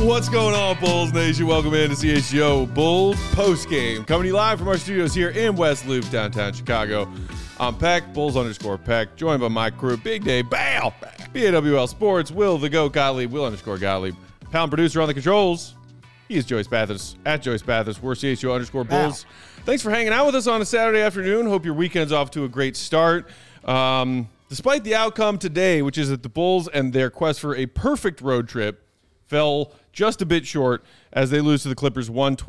What's going on, Bulls Nation? Welcome in to CHGO Bulls postgame. Coming to you live from our studios here in West Loop, downtown Chicago. I'm Peck, Bulls_Peck, joined by my crew, Big Day, Bale, BAWL Sports, Will the Goat Gottlieb, Will_Gottlieb, pound producer on the controls. He is Joyce Bathurst, at Joyce Bathurst. We're CHGO_Bulls. Thanks for hanging out with us on a Saturday afternoon. Hope your weekend's off to a great start. Despite the outcome today, which is that the Bulls and their quest for a perfect road trip fell just a bit short as they lose to the Clippers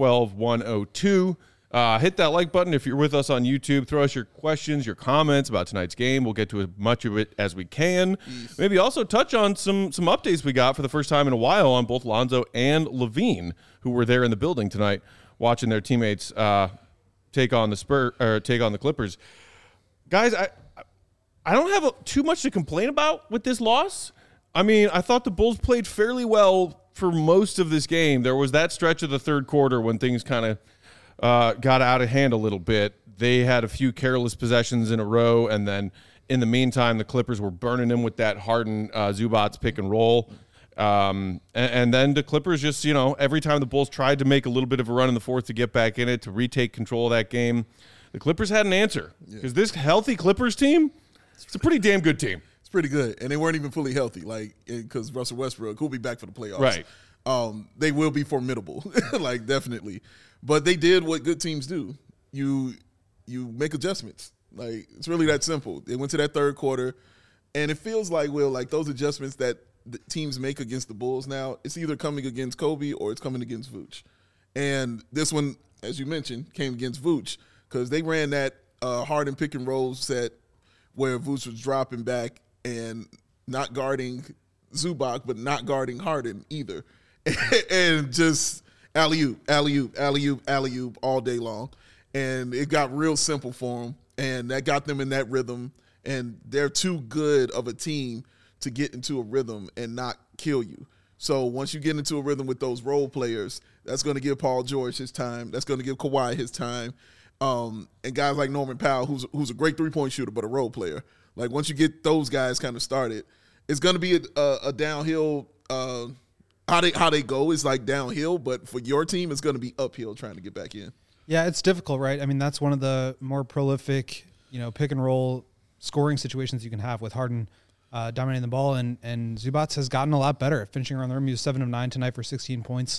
112-102. Hit that like button if you're with us on YouTube. Throw us your questions, your comments about tonight's game. We'll get to as much of it as we can. Maybe also touch on some updates we got for the first time in a while on both Lonzo and Levine, who were there in the building tonight watching their teammates take on the Clippers. Guys, I don't have too much to complain about with this loss. I mean, I thought the Bulls played fairly well for most of this game. There was that stretch of the third quarter when things kind of got out of hand a little bit. They had a few careless possessions in a row, and then in the meantime, the Clippers were burning them with that Harden Zubats pick and roll. And then the Clippers just, every time the Bulls tried to make a little bit of a run in the fourth to get back in it, to retake control of that game, the Clippers had an answer. Because this healthy Clippers team, it's a pretty damn good team. It's pretty good. And they weren't even fully healthy, because Russell Westbrook, who'll be back for the playoffs. Right. They will be formidable, definitely. But they did what good teams do. You make adjustments. It's really that simple. They went to that third quarter, and it feels like, those adjustments that the teams make against the Bulls now, it's either coming against Kobe or it's coming against Vooch. And this one, as you mentioned, came against Vooch because they ran that Harden pick and roll set where Vooch was dropping back and not guarding Zubac, but not guarding Harden either. And just alley-oop, alley-oop, alley-oop, alley-oop all day long. And it got real simple for them, and that got them in that rhythm. And they're too good of a team to get into a rhythm and not kill you. So once you get into a rhythm with those role players, that's going to give Paul George his time. That's going to give Kawhi his time. And guys like Norman Powell, who's a great three-point shooter but a role player. Once you get those guys kind of started, it's going to be a downhill. How they go is downhill, but for your team, it's going to be uphill trying to get back in. Yeah, it's difficult, right? I mean, that's one of the more prolific, pick and roll scoring situations you can have with Harden dominating the ball, and Zubats has gotten a lot better at finishing around the rim. He was 7 of 9 tonight for 16 points.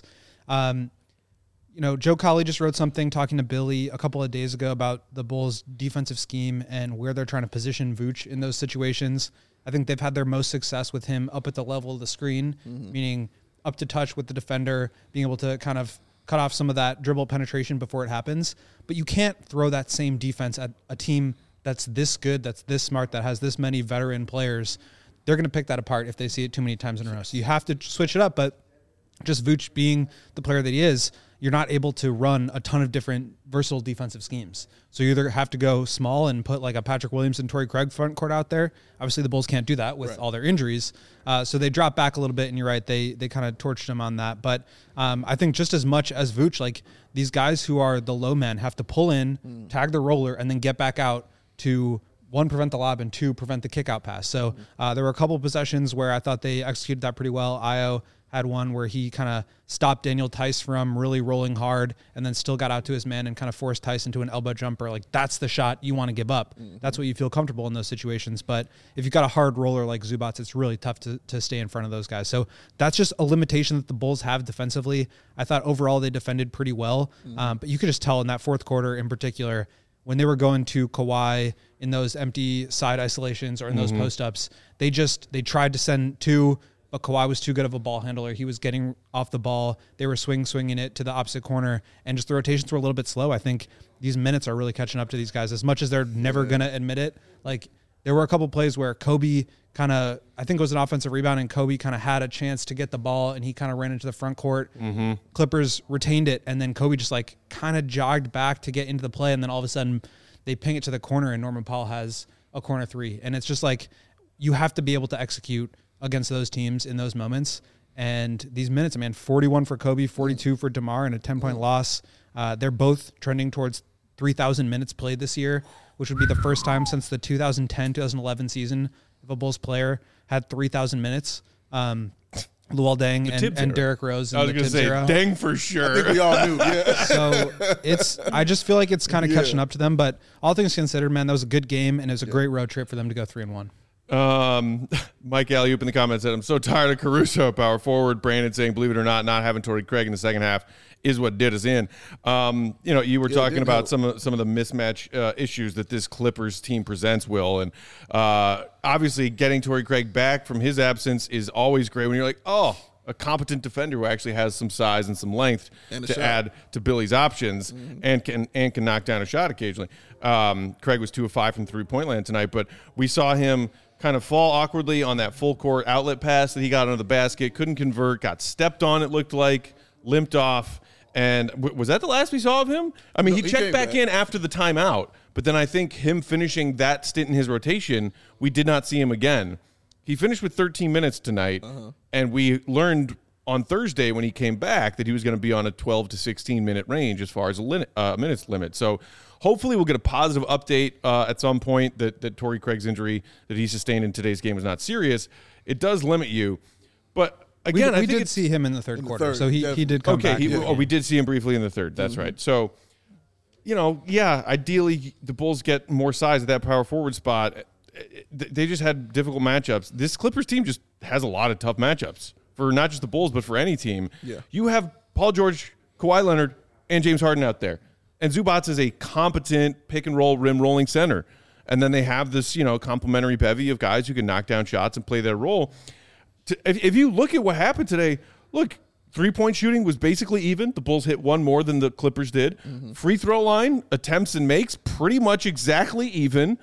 Joe Colley just wrote something talking to Billy a couple of days ago about the Bulls' defensive scheme and where they're trying to position Vooch in those situations. I think they've had their most success with him up at the level of the screen, meaning up to touch with the defender, being able to kind of cut off some of that dribble penetration before it happens. But you can't throw that same defense at a team that's this good, that's this smart, that has this many veteran players. They're going to pick that apart if they see it too many times in a row. So you have to switch it up, but just Vooch being the player that he is, you're not able to run a ton of different versatile defensive schemes. So you either have to go small and put a Patrick Williams and Torrey Craig front court out there. Obviously, the Bulls can't do that with all their injuries. So they drop back a little bit, and you're right, they kind of torched him on that. But I think just as much as Vooch, these guys who are the low men have to pull in, tag the roller, and then get back out to, 1, prevent the lob, and 2, prevent the kick-out pass. So there were a couple of possessions where I thought they executed that pretty well. Ayo had one where he kind of stopped Daniel Tice from really rolling hard and then still got out to his man and kind of forced Tice into an elbow jumper. That's the shot you want to give up. That's what you feel comfortable in those situations. But if you've got a hard roller like Zubats, it's really tough to stay in front of those guys. So that's just a limitation that the Bulls have defensively. I thought overall they defended pretty well. But you could just tell in that fourth quarter in particular, when they were going to Kawhi in those empty side isolations or in those post-ups, they tried to send 2, but Kawhi was too good of a ball handler. He was getting off the ball. They were swinging it to the opposite corner, and just the rotations were a little bit slow. I think these minutes are really catching up to these guys as much as they're never going to admit it. There were a couple plays where Kobe I think it was an offensive rebound, and Kobe kind of had a chance to get the ball, and he kind of ran into the front court. Clippers retained it, and then Kobe just kind of jogged back to get into the play, and then all of a sudden they ping it to the corner, and Norman Powell has a corner 3. And it's just you have to be able to execute against those teams in those moments. And these minutes, 41 for Kobe, 42 for DeMar, and a 10-point loss. They're both trending towards 3,000 minutes played this year, which would be the first time since the 2010-2011 season if a Bulls player had 3,000 minutes. Luol Deng Tibbs and era. Derrick Rose. I was in the going to Tibbs say era. Deng for I sure. think we all knew. Yeah. So I just feel like it's kind of Yeah. catching up to them. But all things considered, man, that was a good game, and it was a great road trip for them to go 3-1. Mike Alley-oop in the comments said, I'm so tired of Caruso, power forward. Brandon saying, believe it or not having Torrey Craig in the second half is what did us in. You were talking about some of the mismatch issues that this Clippers team presents, Will. And obviously getting Torrey Craig back from his absence is always great when you're like, oh, a competent defender who actually has some size and some length And a to shot. add to Billy's options and can knock down a shot occasionally. Craig was 2 of 5 from three-point land tonight, but we saw him kind of fall awkwardly on that full court outlet pass that he got under the basket, couldn't convert, got stepped on, it looked like, limped off. And was that the last we saw of him? I mean, No, he he checked came back back. in after the timeout, but then I think him finishing that stint in his rotation, we did not see him again. He finished with 13 minutes tonight, and we learned on Thursday when he came back that he was going to be on a 12 to 16 minute range as far as a minutes limit. So hopefully we'll get a positive update at some point that Torrey Craig's injury that he sustained in today's game was not serious. It does limit you, but again, we I think did see him in the third quarter, third, so he definitely. did come back. we did see him briefly in the third. That's right. So, ideally the Bulls get more size at that power forward spot. They just had difficult matchups. This Clippers team just has a lot of tough matchups for not just the Bulls, but for any team. Yeah. You have Paul George, Kawhi Leonard, and James Harden out there. And Zubats is a competent pick-and-roll rim rolling center. And then they have this, complementary bevy of guys who can knock down shots and play their role. If you look at what happened today, look, three-point shooting was basically even. The Bulls hit one more than the Clippers did. Free throw line, attempts and makes, pretty much exactly even.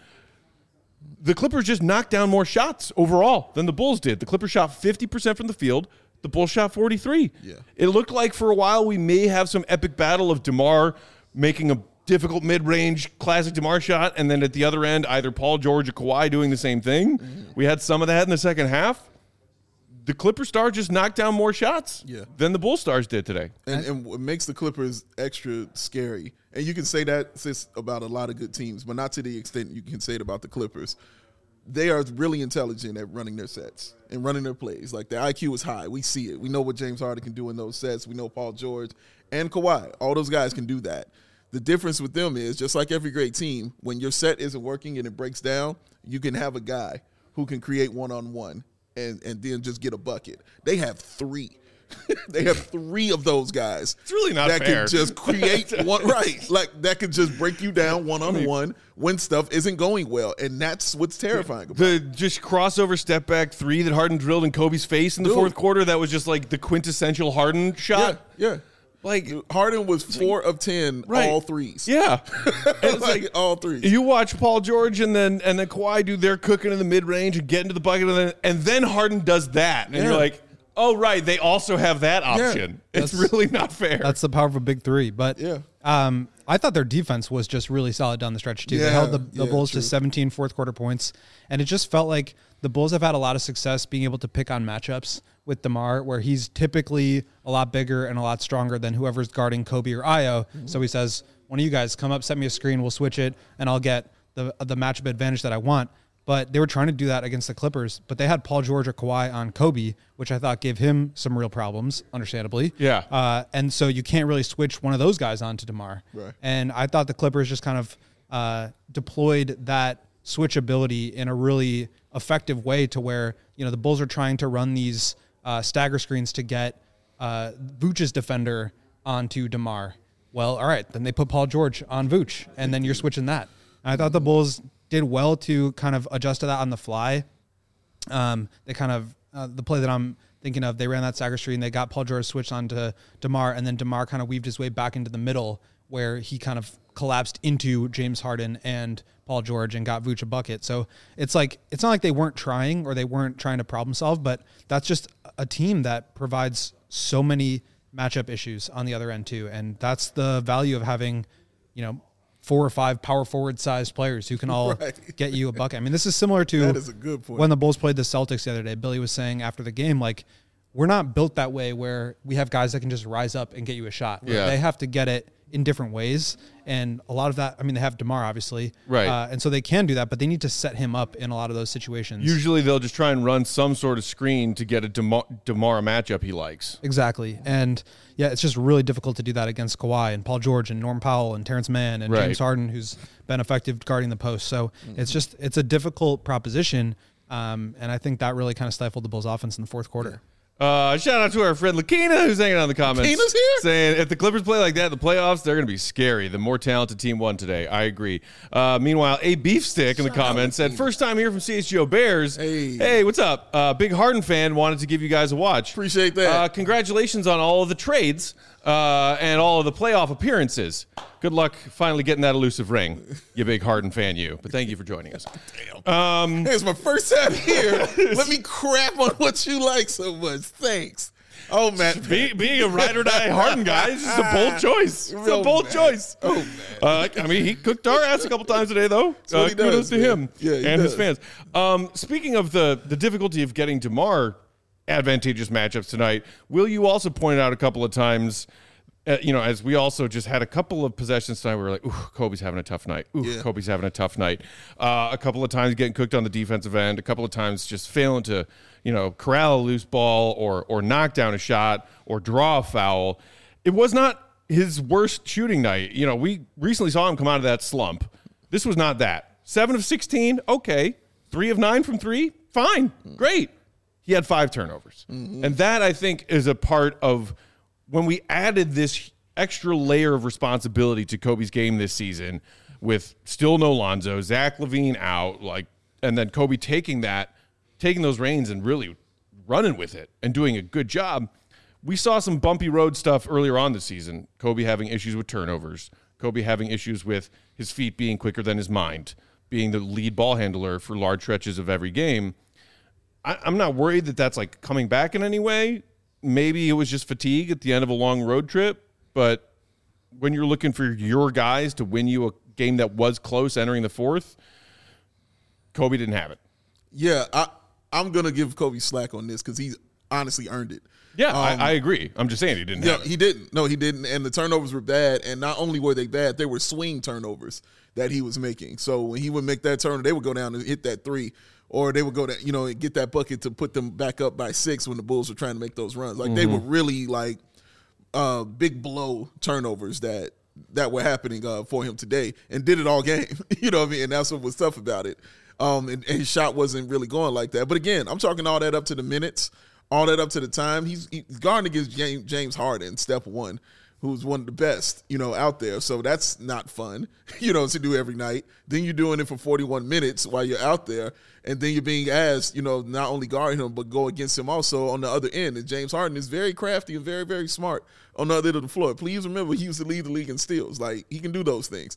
The Clippers just knocked down more shots overall than the Bulls did. The Clippers shot 50% from the field. The Bulls shot 43. Yeah. It looked like for a while we may have some epic battle of DeMar making a difficult mid-range classic DeMar shot, and then at the other end, either Paul George or Kawhi doing the same thing. We had some of that in the second half. The Clipper stars just knocked down more shots than the Bull stars did today. And what makes the Clippers extra scary, and you can say that about a lot of good teams, but not to the extent you can say it about the Clippers. They are really intelligent at running their sets and running their plays. Like, their IQ is high. We see it. We know what James Harden can do in those sets. We know Paul George and Kawhi. All those guys can do that. The difference with them is, just like every great team, when your set isn't working and it breaks down, you can have a guy who can create one-on-one and then just get a bucket. They have 3. They have 3 of those guys. It's really not that fair. can just create one, right? Like, that can just break you down one-on-one when stuff isn't going well, and that's what's terrifying about it. The just crossover step back 3 that Harden drilled in Kobe's face in the fourth quarter, that was just like the quintessential Harden shot. Yeah. Like, Harden was 4 of 10, all threes. Yeah. It's like all threes. You watch Paul George and then Kawhi do their cooking in the mid range and get into the bucket, and then Harden does that, and you're like, oh right, they also have that option. It's really not fair. That's the power of a big 3. But I thought their defense was just really solid down the stretch too. They held the Bulls to 17 fourth quarter points, and it just felt like the Bulls have had a lot of success being able to pick on matchups with DeMar, where he's typically a lot bigger and a lot stronger than whoever's guarding Kobe or Io. So he says, one of you guys come up, set me a screen, we'll switch it, and I'll get the matchup advantage that I want. But they were trying to do that against the Clippers, but they had Paul George or Kawhi on Kobe, which I thought gave him some real problems, understandably. Yeah. And so you can't really switch one of those guys onto DeMar. Right. And I thought the Clippers just kind of deployed that switchability in a really effective way to where, the Bulls are trying to run these stagger screens to get Vooch's defender onto DeMar. Well, all right, then they put Paul George on Vooch, and then you're switching that. And I thought the Bulls did well to kind of adjust to that on the fly. They kind of the play that I'm thinking of, they ran that stagger screen, they got Paul George switched onto DeMar, and then DeMar kind of weaved his way back into the middle where he kind of collapsed into James Harden and Paul George and got Vooch a bucket. So it's like, it's not like they weren't trying or they weren't trying to problem solve, but that's just a team that provides so many matchup issues on the other end too. And that's the value of having, 4 or 5 power forward sized players who can all get you a bucket. I mean, this is similar to That is a good point. when the Bulls played the Celtics the other day. Billy was saying after the game, like, we're not built that way where we have guys that can just rise up and get you a shot. Yeah. They have to get it in different ways. And a lot of that, I mean, they have DeMar, obviously. Right. And so they can do that, but they need to set him up in a lot of those situations. Usually they'll just try and run some sort of screen to get a DeMar matchup he likes. Exactly. And, yeah, it's just really difficult to do that against Kawhi and Paul George and Norm Powell and Terrence Mann and James Harden, who's been effective guarding the post. So it's a difficult proposition. And I think that really kind of stifled the Bulls' offense in the fourth quarter. Shout out to our friend Lakina, who's hanging out in the comments. Lakina's here? Saying, if the Clippers play like that in the playoffs, they're going to be scary. The more talented team won today. I agree. Meanwhile, a beefstick in the comments said, first time here from CHGO Bears. Hey, what's up? Big Harden fan, wanted to give you guys a watch. Appreciate that. Congratulations on all of the trades and all of the playoff appearances. Good luck finally getting that elusive ring, you big Harden fan, you. But thank you for joining us. Damn. It's my first time here. Let me crap on what you like so much. Thanks. Oh, man. Being a ride or die Harden guy is just a bold choice. It's a bold choice. Oh, man. I mean, he cooked our ass a couple times today, though. Kudos to him and his fans. Speaking of the difficulty of getting DeMar advantageous matchups tonight, will you also point out a couple of times, as we also just had a couple of possessions tonight, we were like, ooh, Kobe's having a tough night. Kobe's having a tough night. A couple of times getting cooked on the defensive end, a couple of times just failing to, corral a loose ball or knock down a shot or draw a foul. It was not his worst shooting night. We recently saw him come out of that slump. This was not that. 7 of 16, okay. 3 of 9 from 3, fine, great. He had 5 turnovers. Mm-hmm. And that, I think, is a part of when we added this extra layer of responsibility to Kobe's game this season with still no Lonzo, Zach LaVine out, and then Kobe taking those reins and really running with it and doing a good job. We saw some bumpy road stuff earlier on this season. Kobe having issues with turnovers, Kobe having issues with his feet being quicker than his mind, being the lead ball handler for large stretches of every game. I'm not worried that that's coming back in any way. Maybe it was just fatigue at the end of a long road trip, but when you're looking for your guys to win you a game that was close entering the fourth, Kobe didn't have it. Yeah, I'm going to give Kobe slack on this because he's honestly earned it. Yeah, I agree. I'm just saying he didn't have it. He didn't. No, he didn't. And the turnovers were bad. And not only were they bad, they were swing turnovers that he was making. So when he would make that turn, they would go down and hit that 3. Or they would go down, and get that bucket to put them back up by 6 when the Bulls were trying to make those runs. They were really big blow turnovers that were happening for him today, and did it all game. You know what I mean? And that's what was tough about it. And his shot wasn't really going like that. But again, I'm talking all that up to the minutes, all that up to the time. He's guarding against James Harden, step 1. Who's one of the best, out there. So that's not fun, to do every night. Then you're doing it for 41 minutes while you're out there. And then you're being asked, not only guard him, but go against him also on the other end. And James Harden is very crafty and very, very smart on the other end of the floor. Please remember, he used to lead the league in steals. He can do those things.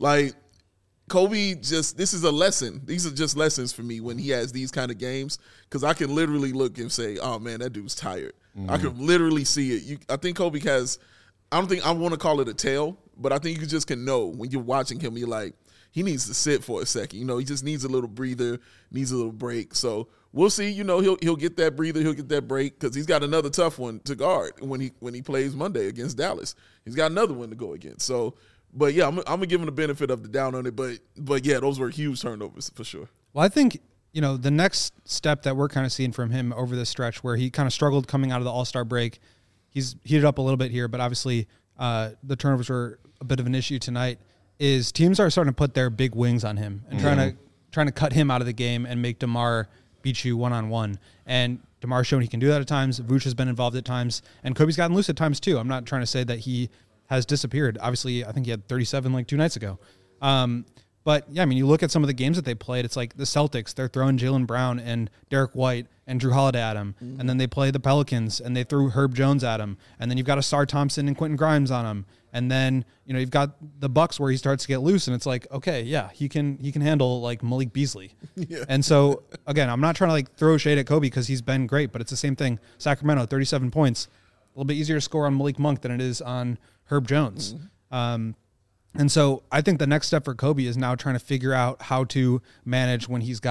Kobe this is a lesson. These are just lessons for me when he has these kind of games, because I can literally look and say, oh, man, that dude's tired. Mm-hmm. I can literally see it. I think Kobe has – I don't think I want to call it a tell, but I think you just can know when you're watching him, you're like, he needs to sit for a second. He just needs a little breather, needs a little break. So we'll see. He'll get that breather, he'll get that break, because he's got another tough one to guard when he plays Monday against Dallas. He's got another one to go against. So, but yeah, I'm gonna give him the benefit of the doubt on it. But yeah, those were huge turnovers for sure. Well, I think the next step that we're kind of seeing from him over this stretch, where he kind of struggled coming out of the All-Star break. He's heated up a little bit here, but obviously the turnovers were a bit of an issue tonight, is teams are starting to put their big wings on him and trying to cut him out of the game and make DeMar beat you one-on-one. And DeMar's shown he can do that at times. Vooch has been involved at times. And Kobe's gotten loose at times too. I'm not trying to say that he has disappeared. Obviously, I think he had 37 2 nights ago. But, yeah, I mean, you look at some of the games that they played, it's like the Celtics, they're throwing Jaylen Brown and Derek White and Drew Holiday at him. Mm-hmm. And then they play the Pelicans, and they threw Herb Jones at him. And then you've got Asar Thompson and Quentin Grimes on him. And then, you've got the Bucks where he starts to get loose, and it's like, okay, yeah, he can handle, Malik Beasley. Yeah. And so, again, I'm not trying to, throw shade at Kobe because he's been great, but it's the same thing. Sacramento, 37 points. A little bit easier to score on Malik Monk than it is on Herb Jones. Mm-hmm. And so I think the next step for Kobe is now trying to figure out how to manage when he's got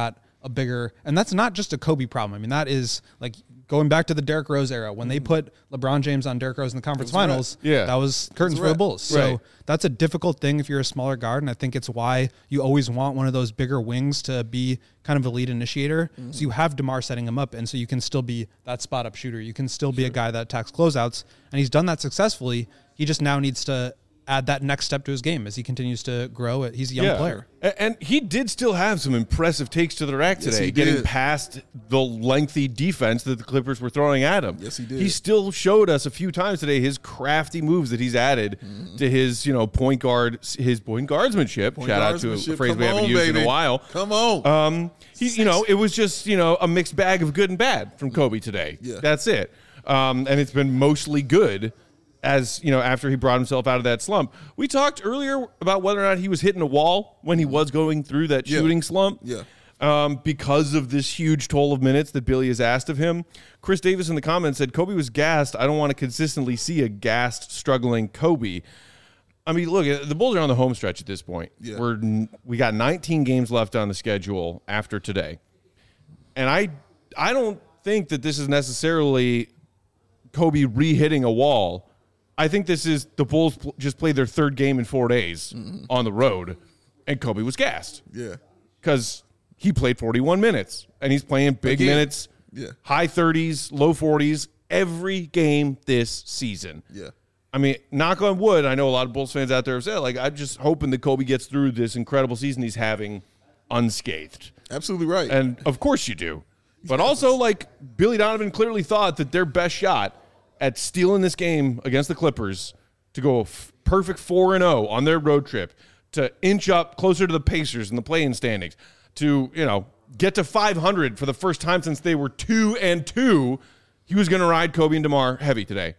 a bigger, and that's not just a Kobe problem. I mean, that is like going back to the Derrick Rose era when they put LeBron James on Derrick Rose in the conference finals. Yeah. That was curtains for the Bulls. So Right. that's a difficult thing if you're a smaller guard, and I think it's why you always want one of those bigger wings to be kind of a lead initiator. So you have DeMar setting him up, and so you can still be that spot up shooter. You can still be a guy that attacks closeouts, and he's done that successfully. He just now needs to add that next step to his game as he continues to grow. He's a young player. And he did still have some impressive takes to the rack today, he getting did. past the lengthy defense that the Clippers were throwing at him. Yes, he did. He still showed us a few times today his crafty moves that he's added to his, point guardsmanship. Shout out to a phrase we haven't used in a while. Come on. It was just, a mixed bag of good and bad from Kobe today. Yeah. That's it. And it's been mostly good. As after he brought himself out of that slump. We talked earlier about whether or not he was hitting a wall when he was going through that shooting slump. Yeah. Because of this huge toll of minutes that Billy has asked of him. Chris Davis in the comments said, Kobe was gassed. I don't want to consistently see a gassed, struggling Kobe. I mean, look, the Bulls are on the home stretch at this point. Yeah. We got 19 games left on the schedule after today. And I don't think that this is necessarily Kobe re-hitting a wall. I think this is the Bulls just played their third game in 4 days on the road, and Kobe was gassed. Yeah. Because he played 41 minutes, and he's playing big minutes, high 30s, low 40s, every game this season. Yeah. I mean, knock on wood, I know a lot of Bulls fans out there have said, I'm just hoping that Kobe gets through this incredible season he's having unscathed. Absolutely right. And, of course, you do. But also, Billy Donovan clearly thought that their best shot at stealing this game against the Clippers to go perfect 4-0 on their road trip, to inch up closer to the Pacers in the play-in standings, to, get to 500 for the first time since they were 2-2, he was going to ride Kobe and DeMar heavy today.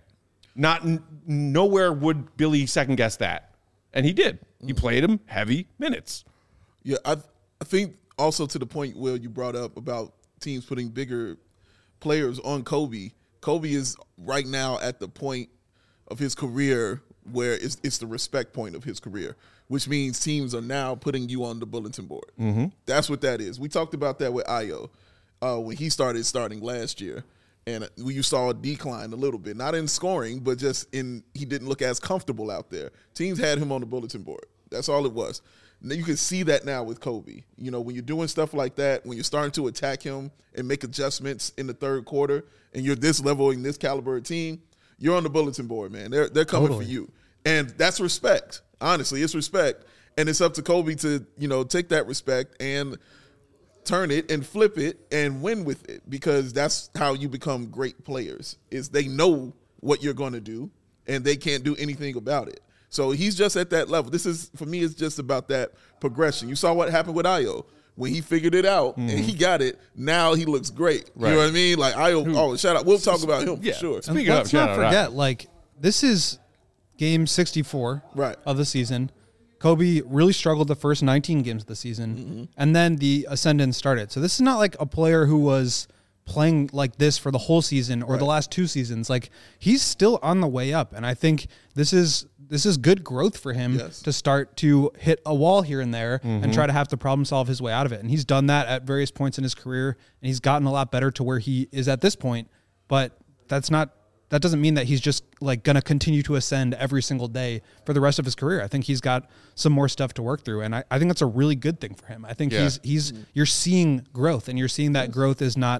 Nowhere would Billy second guess that. And he did. He played him heavy minutes. Yeah, I think also to the point where you brought up about teams putting bigger players on Kobe. Kobe is right now at the point of his career where it's the respect point of his career, which means teams are now putting you on the bulletin board. Mm-hmm. That's what that is. We talked about that with Ayo when he starting last year, and you saw a decline a little bit, not in scoring, but just he didn't look as comfortable out there. Teams had him on the bulletin board. That's all it was. You can see that now with Kobe. When you're doing stuff like that, when you're starting to attack him and make adjustments in the third quarter, and you're this level in this caliber of team, you're on the bulletin board, man. They're coming for you. And that's respect. Honestly, it's respect. And it's up to Kobe to, take that respect and turn it and flip it and win with it, because that's how you become great players, is they know what you're going to do and they can't do anything about it. So he's just at that level. This is, for me, it's just about that progression. You saw what happened with Ayo. When he figured it out and he got it, now he looks great. Right. You know what I mean? Ayo, shout out. We'll talk about him for sure. Speaking of, Let's not forget, this is game 64 of the season. Kobe really struggled the first 19 games of the season, and then the ascendant started. So this is not like a player who was playing like this for the whole season or the last two seasons. He's still on the way up, and I think this is good growth for him to start to hit a wall here and there and try to have to problem solve his way out of it. And he's done that at various points in his career, and he's gotten a lot better to where he is at this point. But that doesn't mean that he's just going to continue to ascend every single day for the rest of his career. I think he's got some more stuff to work through, and I think that's a really good thing for him. I think you're seeing growth, and you're seeing that growth is not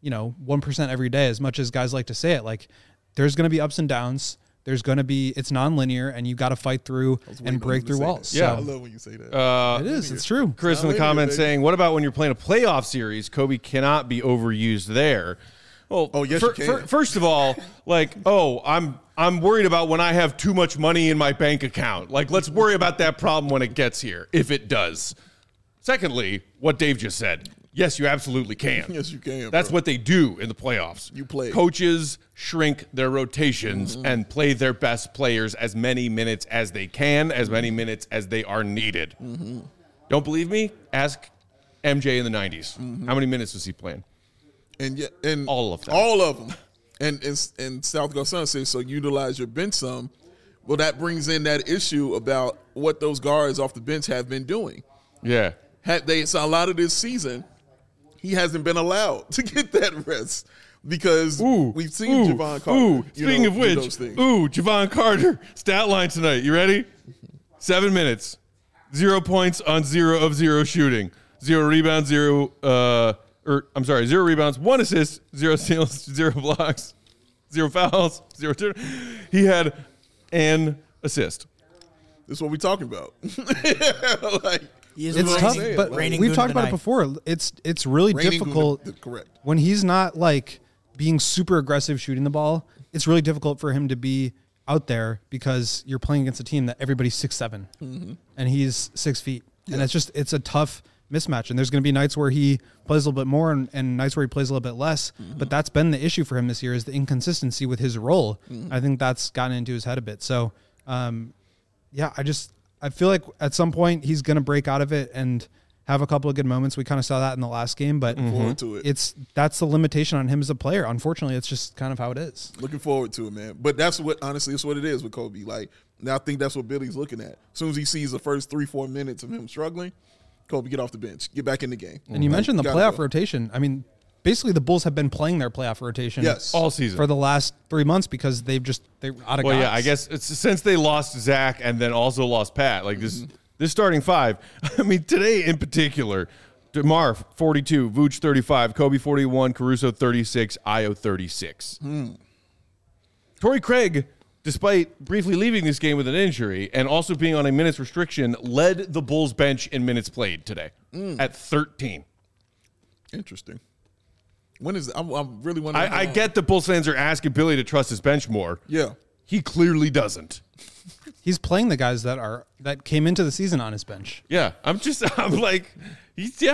1% every day, as much as guys like to say it. There's going to be ups and downs. It's nonlinear, and you got to fight through and break through walls. Yeah, I love when you say that. It is. It's true. Chris in the comments saying, what about when you're playing a playoff series? Kobe cannot be overused there. Well, yes, you can. First of all, I'm worried about when I have too much money in my bank account. Let's worry about that problem when it gets here, if it does. Secondly, what Dave just said. Yes, you absolutely can. Yes, you can. That's what they do in the playoffs. You play. Coaches shrink their rotations and play their best players as many minutes as they can, as many minutes as they are needed. Don't believe me? Ask MJ in the 90s. How many minutes was he playing? And all of them. All of them. And South Garcon says, so utilize your bench some. Well, that brings in that issue about what those guards off the bench have been doing. Yeah. So a lot of this season, he hasn't been allowed to get that rest because we've seen Javon Carter. Speaking of which, those things. Javon Carter, stat line tonight. You ready? 7 minutes, 0 points on 0 of 0 shooting, 0 rebounds, 0 rebounds, 1 assist, 0 steals, 0 blocks, 0 fouls, 0 turn. He had an assist. This is what we're talking about. Like, it's tough, but we've talked about it before. It's really difficult. Correct. When he's not like being super aggressive shooting the ball, it's really difficult for him to be out there because you're playing against a team that everybody's 6'7", and he's 6 feet, and it's a tough mismatch. And there's going to be nights where he plays a little bit more and nights where he plays a little bit less. But that's been the issue for him this year, is the inconsistency with his role. I think that's gotten into his head a bit. So, I feel like at some point he's going to break out of it and have a couple of good moments. We kind of saw that in the last game, but that's the limitation on him as a player. Unfortunately, it's just kind of how it is. Looking forward to it, man. But that's what it is with Kobe. Like, now I think that's what Billy's looking at. As soon as he sees the first 3-4 minutes of him struggling, Kobe, get off the bench, get back in the game. And you mentioned the playoff rotation. I mean, basically the Bulls have been playing their playoff rotation all season for the last 3 months because they're out of guys. Yeah, I guess it's since they lost Zach and then also lost Pat. Like this starting five. I mean, today in particular, DeMar 42, Vooch 35, Kobe 41, Caruso 36, Ayo 36. Torrey Craig, despite briefly leaving this game with an injury and also being on a minutes restriction, led the Bulls bench in minutes played today at 13. Interesting. When is I'm really wondering. I get the Bulls fans are asking Billy to trust his bench more. Yeah. He clearly doesn't. He's playing the guys that came into the season on his bench. Yeah. I'm like, this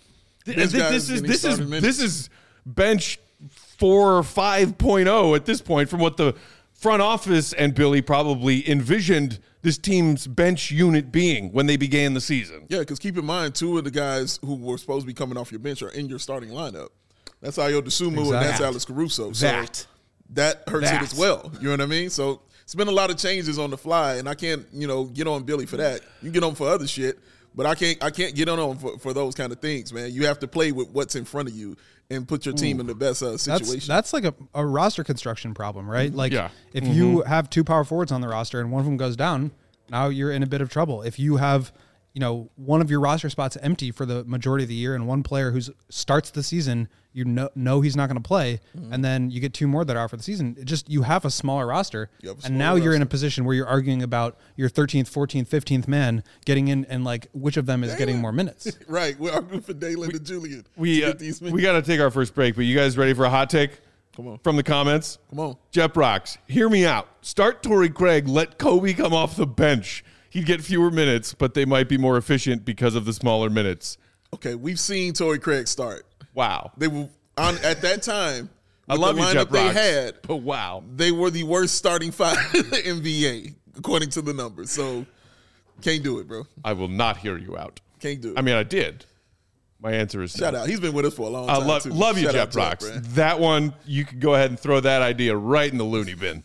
is bench 4 or 5.0 at this point from what the front office and Billy probably envisioned this team's bench unit being when they began the season. Yeah, because keep in mind, 2 of the guys who were supposed to be coming off your bench are in your starting lineup. That's Ayo Dosunmu and that's Alex Caruso. So that hurts it as well. You know what I mean? So it's been a lot of changes on the fly, and I can't, get on Billy for that. You can get on for other shit, but I can't get on for those kind of things, man. You have to play with what's in front of you and put your team in the best situation. That's like a roster construction problem, right? Like if you have 2 power forwards on the roster and one of them goes down, now you're in a bit of trouble. If you have, one of your roster spots empty for the majority of the year and one player who starts the season, you know he's not going to play, and then you get 2 more that are for the season. You have a smaller roster, and now you're in a position where you're arguing about your 13th, 14th, 15th man getting in, and like which of them is getting more minutes. Right, we're arguing for Dalen and Julian. We got to take our first break, but you guys ready for a hot take? Come on. From the comments? Come on. Jep Rocks, hear me out. Start Torrey Craig, let Kobe come off the bench. He'd get fewer minutes, but they might be more efficient because of the smaller minutes. Okay, we've seen Torrey Craig start. Wow. They were at that time. I love the you, Jep lineup Rocks, they had. but wow. They were the worst starting 5 in the NBA, according to the numbers. So, can't do it, bro. I will not hear you out. Can't do it. I mean, I did. My answer is shout no. out. He's been with us for a long time. I love you, Shout Jep Rocks. That one, you could go ahead and throw that idea right in the loony bin.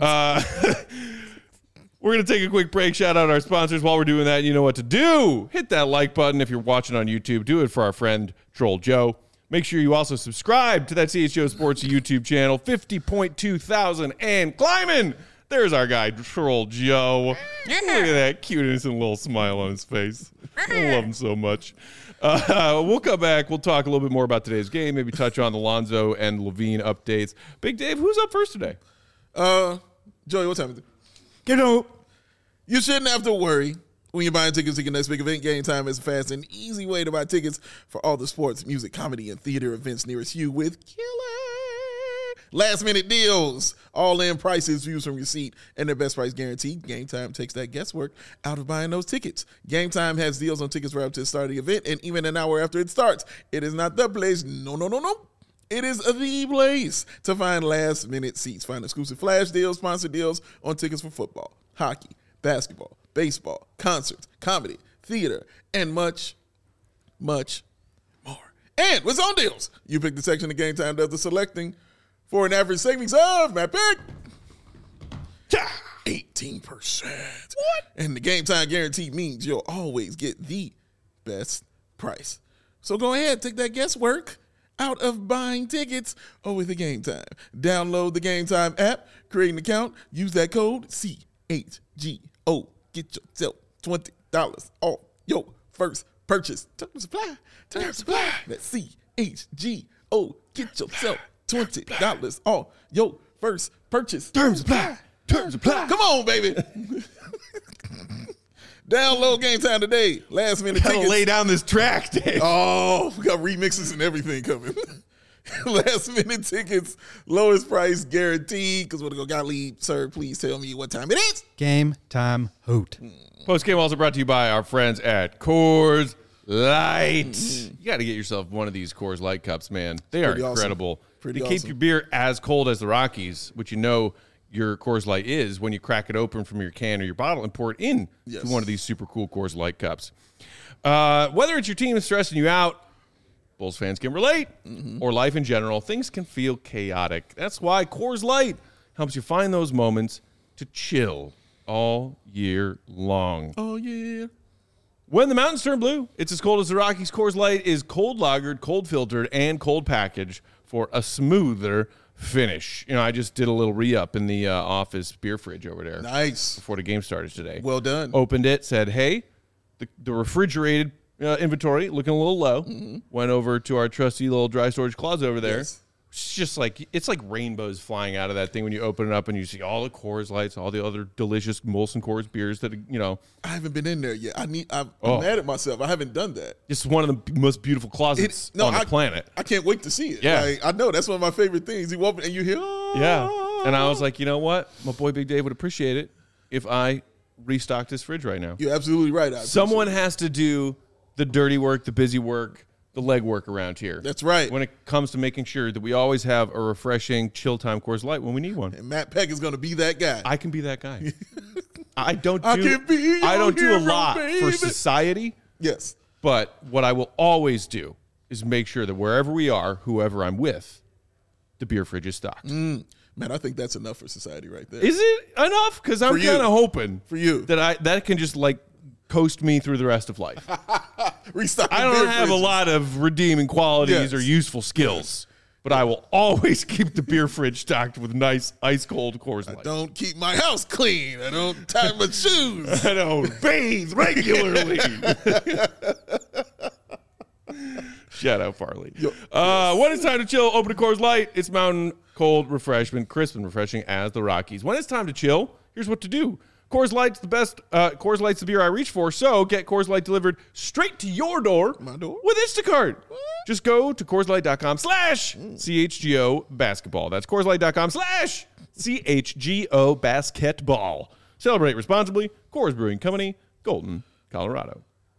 We're going to take a quick break. Shout out our sponsors. While we're doing that, you know what to do. Hit that like button if you're watching on YouTube. Do it for our friend Troll Joe. Make sure you also subscribe to that CHGO Sports YouTube channel. 50.2 thousand and climbing. There's our guy, Troll Joe. Look at that cute, innocent little smile on his face. I love him so much. We'll come back. We'll talk a little bit more about today's game. Maybe touch on the Lonzo and Levine updates. Big Dave, who's up first today? Joey, what time is it? You shouldn't have to worry when you're buying tickets to your next big event. Game Time is a fast and easy way to buy tickets for all the sports, music, comedy, and theater events nearest you with killer last-minute deals, all-in prices, views from your seat, and their best price guarantee. Game Time takes that guesswork out of buying those tickets. Game Time has deals on tickets right up to the start of the event and even an hour after it starts. It is not the place. No. It is the place to find last-minute seats. Find exclusive flash deals, sponsored deals on tickets for football, hockey, basketball, baseball, concerts, comedy, theater, and much, much more. And with zone deals, you pick the section of Game Time does the selecting for an average savings of, Matt Pick, 18%. What? And the Game Time guarantee means you'll always get the best price. So go ahead, take that guesswork out of buying tickets over the Game Time. Download the Game Time app, create an account, use that code CHGO. Get yourself $20 off your first purchase. Terms apply. Terms apply. That's CHGO. Get yourself $20 off your first purchase. Terms apply. Terms apply. Come on, baby. Download Game Time today. Last minute Gotta tickets. lay down this track, Dave. Oh, we got remixes and everything coming. Last minute tickets, lowest price guaranteed. Because we're going to go, Gottlieb, sir, please tell me what time it is. Game time hoot. Post game also brought to you by our friends at Coors Light. You got to get yourself one of these Coors Light cups, man. They are Pretty awesome. incredible. Pretty They keep awesome. your beer as cold as the Rockies, which you know your Coors Light is when you crack it open from your can or your bottle and pour it in Yes. to one of these super cool Coors Light cups. Whether it's your team stressing you out, Bulls fans can relate, or life in general, things can feel chaotic. That's why Coors Light helps you find those moments to chill all year long. Oh, yeah. When the mountains turn blue, it's as cold as the Rockies. Coors Light is cold lagered, cold filtered, and cold packaged for a smoother finish. You know, I just did a little re-up in the office beer fridge over there Nice. before the game started today. Well done. Opened it, said, hey, the refrigerated inventory looking a little low. Went over to our trusty little dry storage closet over there. Yes. It's just like, it's like rainbows flying out of that thing when you open it up and you see all the Coors Lights, all the other delicious Molson Coors beers that, you know, I haven't been in there yet. I'm Oh. mad at myself. I haven't done that. it's one of the most beautiful closets on the planet. I can't wait to see it. Yeah. Like, I know that's one of my favorite things. You open and you hear, oh. Yeah. And I was like, you know what? My boy Big Dave would appreciate it if I restocked this fridge right now. You're absolutely right. Someone has to do the dirty work, the busy work, the leg work around here. That's right. When it comes to making sure that we always have a refreshing chill time Coors Light when we need one. And Matt Peck is going to be that guy. I can be that guy. I don't I do can be your I don't do a hero, lot for baby. society, Yes. but what I will always do is make sure that wherever we are, whoever I'm with, the beer fridge is stocked. Man, I think that's enough for society right there. Is it enough? Because I'm For you. kind of hoping For you. that can just like coast me through the rest of life. Restock the I don't beer have a fridges. lot of redeeming qualities Yes. or useful skills, but I will always keep the beer fridge stocked with nice ice cold Coors Light. Don't keep my house clean. I don't tie my shoes. I don't bathe regularly. Shout out Farley. When it's time to chill, open a Coors Light. It's mountain cold refreshment, crisp and refreshing as the Rockies. When it's time to chill, here's what to do. Coors Light's the best. Coors Light's the beer I reach for. So get Coors Light delivered straight to your door. My door? With Instacart. Just go to CoorsLight.com/CHGO basketball. That's CoorsLight.com/CHGO basketball. Celebrate responsibly. Coors Brewing Company, Golden, Colorado.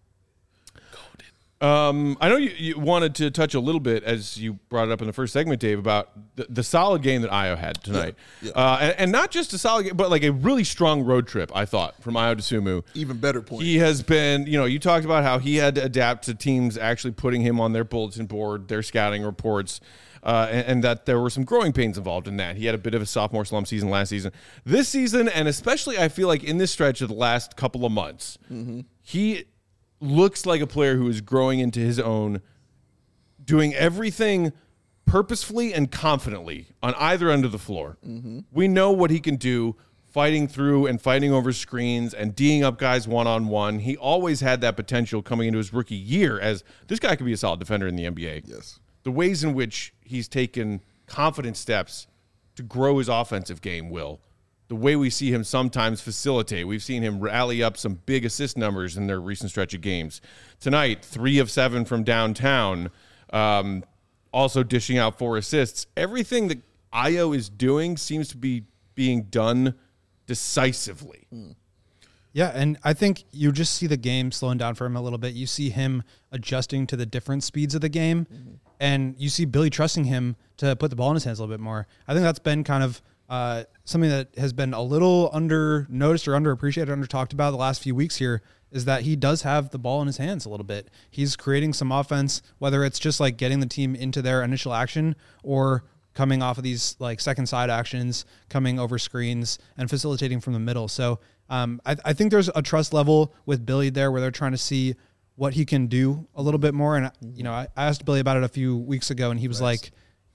I know you wanted to touch a little bit, as you brought it up in the first segment, Dave, about the solid game that Io had tonight. Yeah. And not just a solid game, but like a really strong road trip, I thought, from Io to Sumu. Even better point. He has been, you talked about how he had to adapt to teams actually putting him on their bulletin board, their scouting reports, and that there were some growing pains involved in that. He had a bit of a sophomore slump season last season. This season, and especially I feel like in this stretch of the last couple of months, he looks like a player who is growing into his own, doing everything purposefully and confidently on either end of the floor. We know what he can do, fighting through and fighting over screens and D'ing up guys one-on-one. He always had that potential coming into his rookie year as this guy could be a solid defender in the NBA. Yes. The ways in which he's taken confident steps to grow his offensive game, the way we see him sometimes facilitate. We've seen him rally up some big assist numbers in their recent stretch of games. Tonight, 3 of 7 from downtown, also dishing out 4 assists. Everything that Io is doing seems to be being done decisively. Yeah, and I think you just see the game slowing down for him a little bit. You see him adjusting to the different speeds of the game, and you see Billy trusting him to put the ball in his hands a little bit more. I think that's been kind of something that has been a little under noticed or underappreciated, under talked about the last few weeks here, is that he does have the ball in his hands a little bit. He's creating some offense, whether it's just like getting the team into their initial action or coming off of these like second side actions, coming over screens and facilitating from the middle. So I think there's a trust level with Billy there where they're trying to see what he can do a little bit more. And, I asked Billy about it a few weeks ago, and he was like,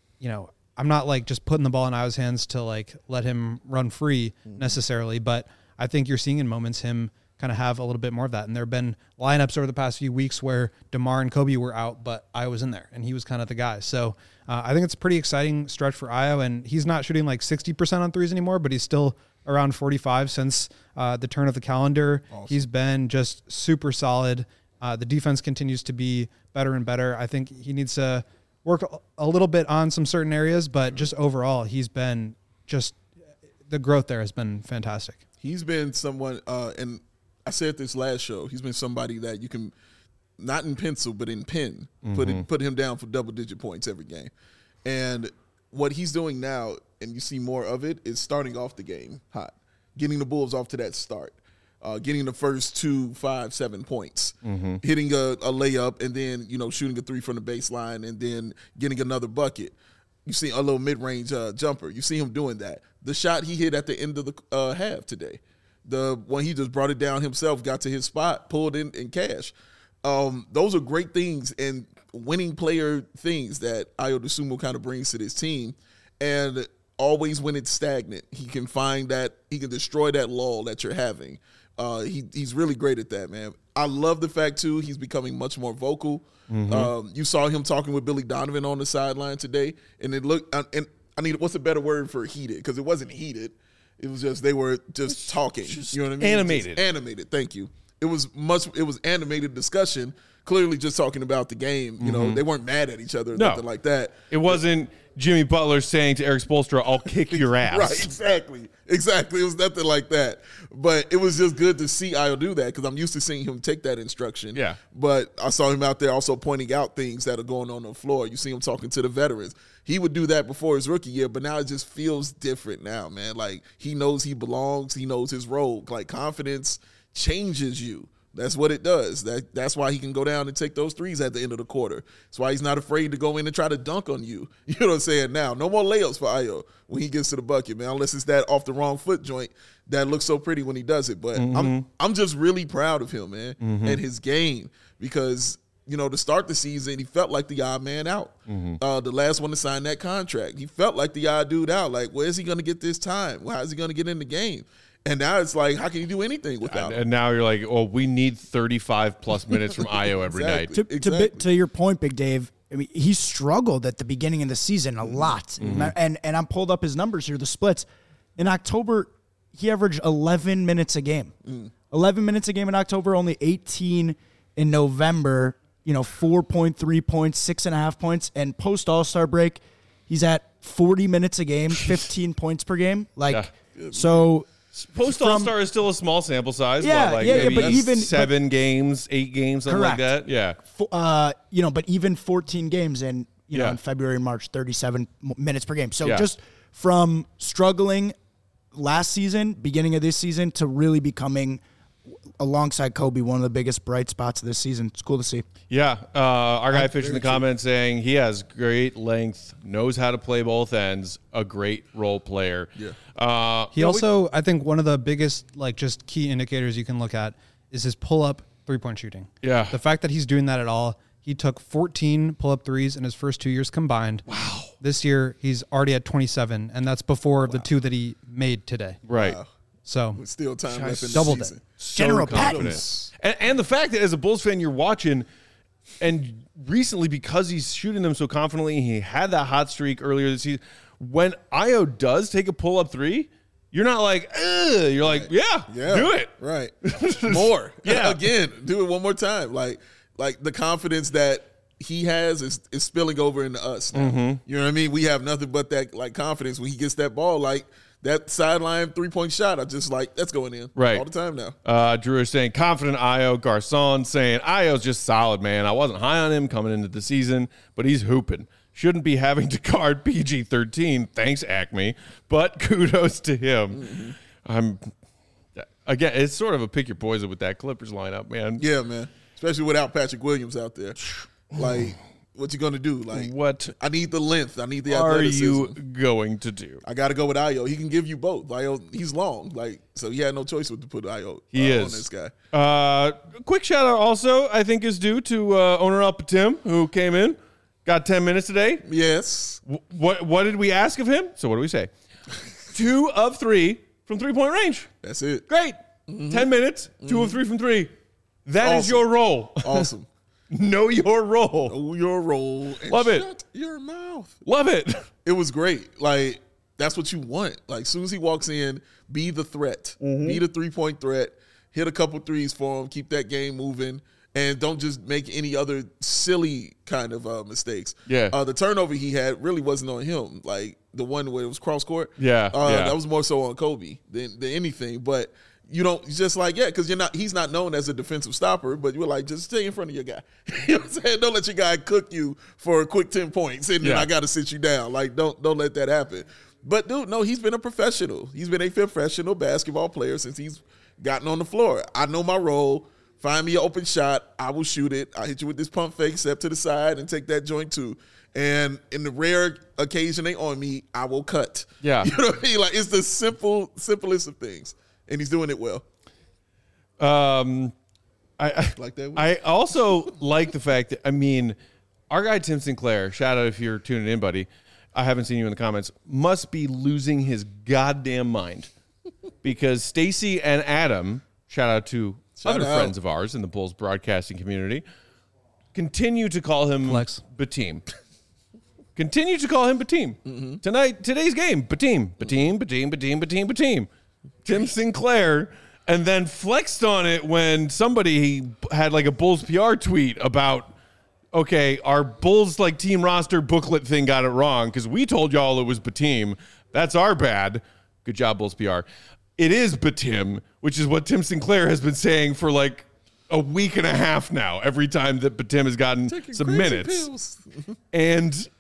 I'm not like just putting the ball in Io's hands to like let him run free necessarily, but I think you're seeing in moments him kind of have a little bit more of that. And there have been lineups over the past few weeks where DeMar and Kobe were out, but Io was in there, and he was kind of the guy. So I think it's a pretty exciting stretch for Io, and he's not shooting like 60% on threes anymore, but he's still around 45 since the turn of the calendar. Awesome. He's been just super solid. The defense continues to be better and better. I think he needs to work a little bit on some certain areas, but just overall, he's been just the growth there has been fantastic. He's been someone, and I said this last show, he's been somebody that you can, not in pencil, but in pen, put him down for double-digit points every game. And what he's doing now, and you see more of it, is starting off the game hot, getting the Bulls off to that start. Getting the first 2, 5, 7 points, hitting a layup, and then shooting a three from the baseline, and then getting another bucket. You see a little mid-range jumper. You see him doing that. The shot he hit at the end of the half today, the one he just brought it down himself, got to his spot, pulled in and cash. Those are great things and winning player things that Ayo Dosunmu kind of brings to this team. And always when it's stagnant, he can find that, he can destroy that lull that you're having. He's really great at that, man. I love the fact, too, he's becoming much more vocal. You saw him talking with Billy Donovan on the sideline today, and it looked and I need, what's a better word for heated? Because it wasn't heated. It was just, they were just talking. You know what I mean? Animated. Just animated, thank you. It was animated discussion, clearly just talking about the game. They weren't mad at each other or nothing like that. It wasn't Jimmy Butler saying to Eric Spoelstra, I'll kick your ass. Right, exactly. It was nothing like that. But it was just good to see Ayo do that because I'm used to seeing him take that instruction. Yeah. But I saw him out there also pointing out things that are going on the floor. You see him talking to the veterans. He would do that before his rookie year, but now it just feels different now, man. Like, he knows he belongs. He knows his role. Like, confidence changes you. That's what it does. That's why he can go down and take those threes at the end of the quarter. That's why he's not afraid to go in and try to dunk on you. You know what I'm saying? Now, no more layups for Ayo when he gets to the bucket, man, unless it's that off the wrong foot joint that looks so pretty when he does it. But I'm just really proud of him, man, and his game because, to start the season, he felt like the odd man out. The last one to sign that contract. He felt like the odd dude out. Like, where is he going to get this time? How is he going to get in the game? And now it's like, how can you do anything without him? And now you're like, we need 35-plus minutes from Ayo every night. To your point, Big Dave, I mean, he struggled at the beginning of the season a lot. And I'm pulled up his numbers here, the splits. In October, he averaged 11 minutes a game. 11 minutes a game in October, only 18 in November, 4.3 points, 6.5 points. And post All-Star break, he's at 40 minutes a game, 15 points per game. So... Post All-Star is still a small sample size. Yeah, but even 7 games, 8 games, something correct. like that. Yeah. But even 14 games in February, March, 37 minutes per game. So just from struggling last season, beginning of this season, to really becoming, alongside Kobe, one of the biggest bright spots of this season. It's cool to see. Yeah. Our guy Fish in the comments saying he has great length, knows how to play both ends, a great role player. Yeah. He also, I think one of the biggest, just key indicators you can look at is his pull-up three-point shooting. Yeah. The fact that he's doing that at all. He took 14 pull-up threes in his first 2 years combined. Wow. This year, he's already at 27, and that's before the 2 that he made today. Right. Wow. So with still time left in the doubled season. it. So General confident. And the fact that as a Bulls fan, you're watching, and recently because he's shooting them so confidently, he had that hot streak earlier this season. When Ayo does take a pull-up three, you're not like, ugh. You're like, yeah, do it. Right. More. Yeah. Again, do it one more time. Like the confidence that he has is spilling over into us now. You know what I mean? We have nothing but that confidence when he gets that ball. Like that sideline 3-point shot, I just that's going in all the time now. Drew is saying confident Ayo. Garcon saying Ayo's just solid, man. I wasn't high on him coming into the season, but he's hooping. Shouldn't be having to guard PG-13. Thanks, Acme. But kudos to him. Again, it's sort of a pick your poison with that Clippers lineup, man. Yeah, man. Especially without Patrick Williams out there. What you gonna do? Like, What I need the length. I need the are athleticism. you going to do? I got to go with Ayo. He can give you both. Ayo, he's long, like so. He had no choice but to put Ayo He on is. this guy. Quick shout out also, I think, is due to owner up Tim, who came in, got 10 minutes today. Yes, What did we ask of him? So what do we say? 2 of 3 from 3-point range. that's it. Great. 10 minutes, 2 of 3 from 3. That is Awesome. your role. Awesome. Know your role. Know your role. And Love it. Shut your mouth. Love it. It was great. Like, that's what you want. Like, as soon as he walks in, be the threat. Be the 3-point threat. Hit a couple threes for him. Keep that game moving. And don't just make any other silly kind of mistakes. Yeah. The turnover he had really wasn't on him. Like, the one where it was cross court. Yeah. That was more so on Kobe than anything. But you don't just like, because he's not known as a defensive stopper, but you're like, just stay in front of your guy. You know what I'm saying? Don't let your guy cook you for a quick 10 points and then I got to sit you down. Like, don't let that happen. But dude, no, he's been a professional. He's been a professional basketball player since he's gotten on the floor. I know my role. Find me an open shot. I will shoot it. I'll hit you with this pump fake, step to the side, and take that joint too. And in the rare occasion they on me, I will cut. Yeah. You know what I mean? Like, it's the simplest of things. And he's doing it well. I Like that. I also like the fact that, I mean, our guy Tim Sinclair, shout out if you're tuning in, buddy. I haven't seen you in the comments. Must be losing his goddamn mind because Stacy and Adam, shout out to other friends of ours in the Bulls broadcasting community, continue to call him Flex. Bateem. Continue to call him Bateem. Today's game, Bateem. Tim Sinclair, and then flexed on it when somebody had like a Bulls PR tweet about, okay, our Bulls like team roster booklet thing got it wrong because we told y'all it was Bateem. That's our bad. Good job, Bulls PR. It is Bateem, which is what Tim Sinclair has been saying for like a week and a half now. Every time that Bateem has gotten some minutes, and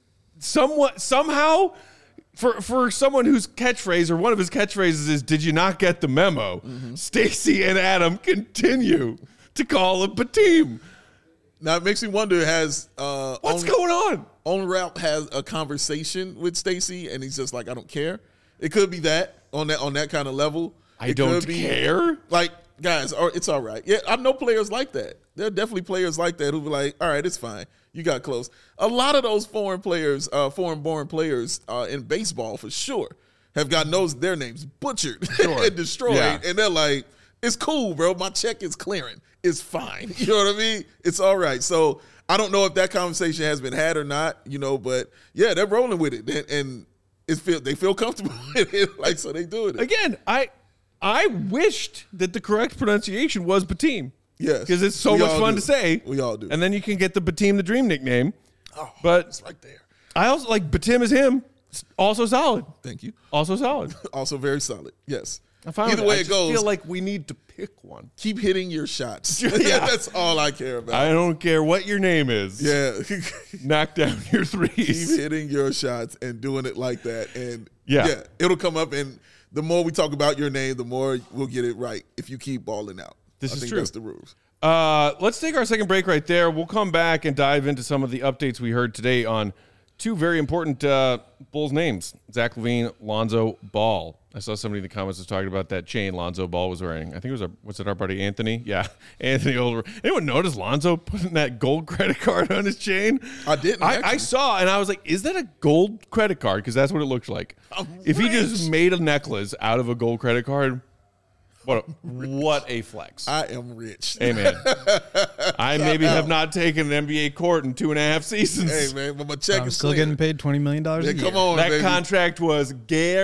somehow. For someone whose catchphrase or one of his catchphrases is "Did you not get the memo?" Stacy and Adam continue to call him Bateem. Now it makes me wonder: has What's going on? On Route has a conversation with Stacy, and he's just like, "I don't care." It could be that on that kind of level. I don't care. Like, guys, it's all right. Yeah, I know players like that. There are definitely players like that who be like, "All right, it's fine. You got close." A lot of those foreign born players in baseball for sure have gotten their names butchered and destroyed. Yeah. And they're like, it's cool, bro. My check is clearing. It's fine. You know what I mean? It's all right. So I don't know if that conversation has been had or not, but yeah, they're rolling with it. And they feel comfortable with it. Like, so they do it. Again, I wished that the correct pronunciation was Bateem. Yes. Because it's so We much all fun do. to say. We all do. And then you can get the Bateem the Dream nickname. Oh, But it's right there. I also like Bateem is him. Also solid. Thank you. Also solid. Also very solid. Yes. I found Either it. way I it just goes, feel like we need to pick one. keep hitting your shots. Yeah. That's all I care about. I don't care what your name is. Yeah. Knock down your Keep threes. hitting your shots and doing it like that. And Yeah. it'll come up. And the more we talk about your name, the more we'll get it right if you keep balling out. This I is think true. That's the rules. Let's take our second break right there. We'll come back and dive into some of the updates we heard today on two very important Bulls names, Zach LaVine, Lonzo Ball. I saw somebody in the comments was talking about that chain Lonzo Ball was wearing. I think it was our buddy Anthony? Yeah, Anthony Older. Anyone notice Lonzo putting that gold credit card on his chain? I didn't, I actually. saw, and I was like, is that a gold credit card? Because that's what it looked like. If he just made a necklace out of a gold credit card, what a flex. I am rich. Hey, man. I maybe have not taken an NBA court in 2.5 seasons. Hey, man, but my check I'm is still clear. getting paid $20 million a Yeah, year. come on, That baby. contract was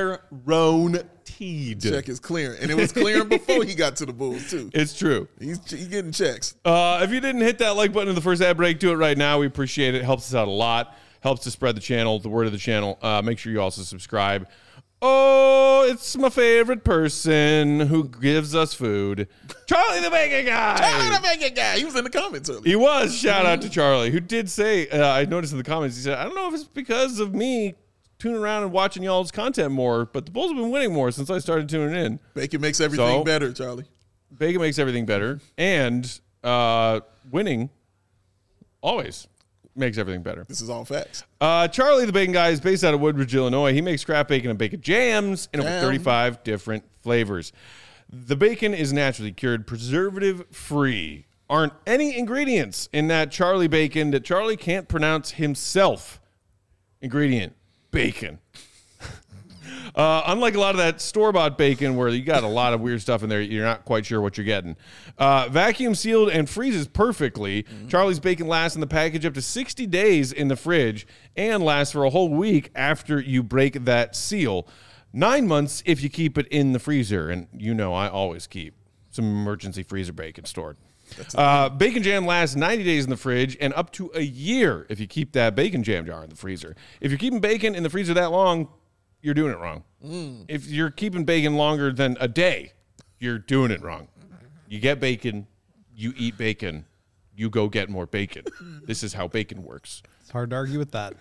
guaranteed. Check is clearing. And it was clearing before he got to the Bulls, too. It's true. He's getting checks. If you didn't hit that like button in the first ad break, do it right now. We appreciate it. Helps us out a lot. Helps to spread the channel, the word of the channel. Make sure you also subscribe. Oh, it's my favorite person who gives us food. Charlie the Bacon Guy. Charlie the Bacon Guy. He was in the comments earlier. He was. Shout out to Charlie, who did say, I noticed in the comments, he said, I don't know if it's because of me tuning around and watching y'all's content more, but the Bulls have been winning more since I started tuning in. Bacon makes everything better, Charlie. Bacon makes everything better. And winning always makes everything better. This is all facts. Charlie the Bacon Guy is based out of Woodbridge, Illinois. He makes scrap bacon and bacon jams in over 35 different flavors. The bacon is naturally cured, preservative-free. Aren't any ingredients in that Charlie bacon that Charlie can't pronounce himself. Ingredient, bacon. Unlike a lot of that store-bought bacon where you got a lot of weird stuff in there, you're not quite sure what you're getting. Vacuum sealed and freezes perfectly. Charlie's bacon lasts in the package up to 60 days in the fridge and lasts for a whole week after you break that seal. 9 months if you keep it in the freezer. And you know I always keep some emergency freezer bacon stored. Bacon jam lasts 90 days in the fridge and up to a year if you keep that bacon jam jar in the freezer. If you're keeping bacon in the freezer that long, you're doing it wrong. If you're keeping bacon longer than a day, you're doing it wrong. You get bacon, you eat bacon, you go get more bacon. This is how bacon works. It's hard to argue with that.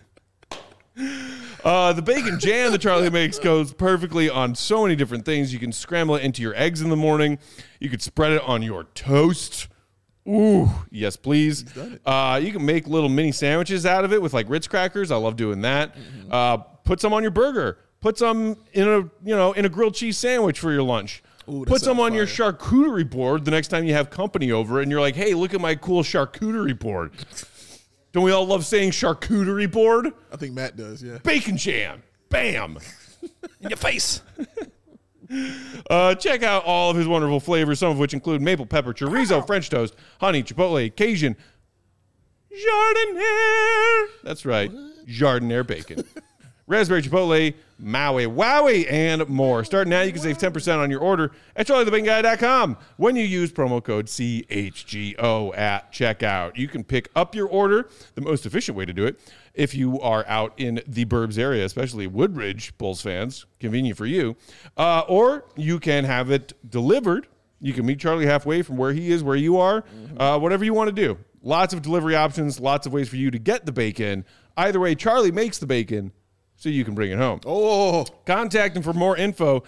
The bacon jam that Charlie makes goes perfectly on so many different things. You can scramble it into your eggs in the morning. You could spread it on your toast. Ooh, yes, please. You can make little mini sandwiches out of it with like Ritz crackers. I love doing that. Put some on your burger. Put some in a grilled cheese sandwich for your lunch. Ooh, Put some on your charcuterie board the next time you have company over and you're like, hey, look at my cool charcuterie board. Don't we all love saying charcuterie board? I think Matt does, yeah. Bacon jam. Bam. In your face. Check out all of his wonderful flavors, some of which include maple pepper, chorizo, French toast, honey, chipotle, Cajun, jardiniere. That's right. Jardiniere bacon. Raspberry chipotle, Maui Wowie, and more. Starting now, you can save 10% on your order at charliethebaconguy.com when you use promo code CHGO at checkout. You can pick up your order, the most efficient way to do it, if you are out in the Burbs area, especially Woodbridge, Bulls fans, convenient for you. Or you can have it delivered. You can meet Charlie halfway from where he is, where you are, whatever you want to do. Lots of delivery options, lots of ways for you to get the bacon. Either way, Charlie makes the bacon so you can bring it home. Oh, Contact him for more info,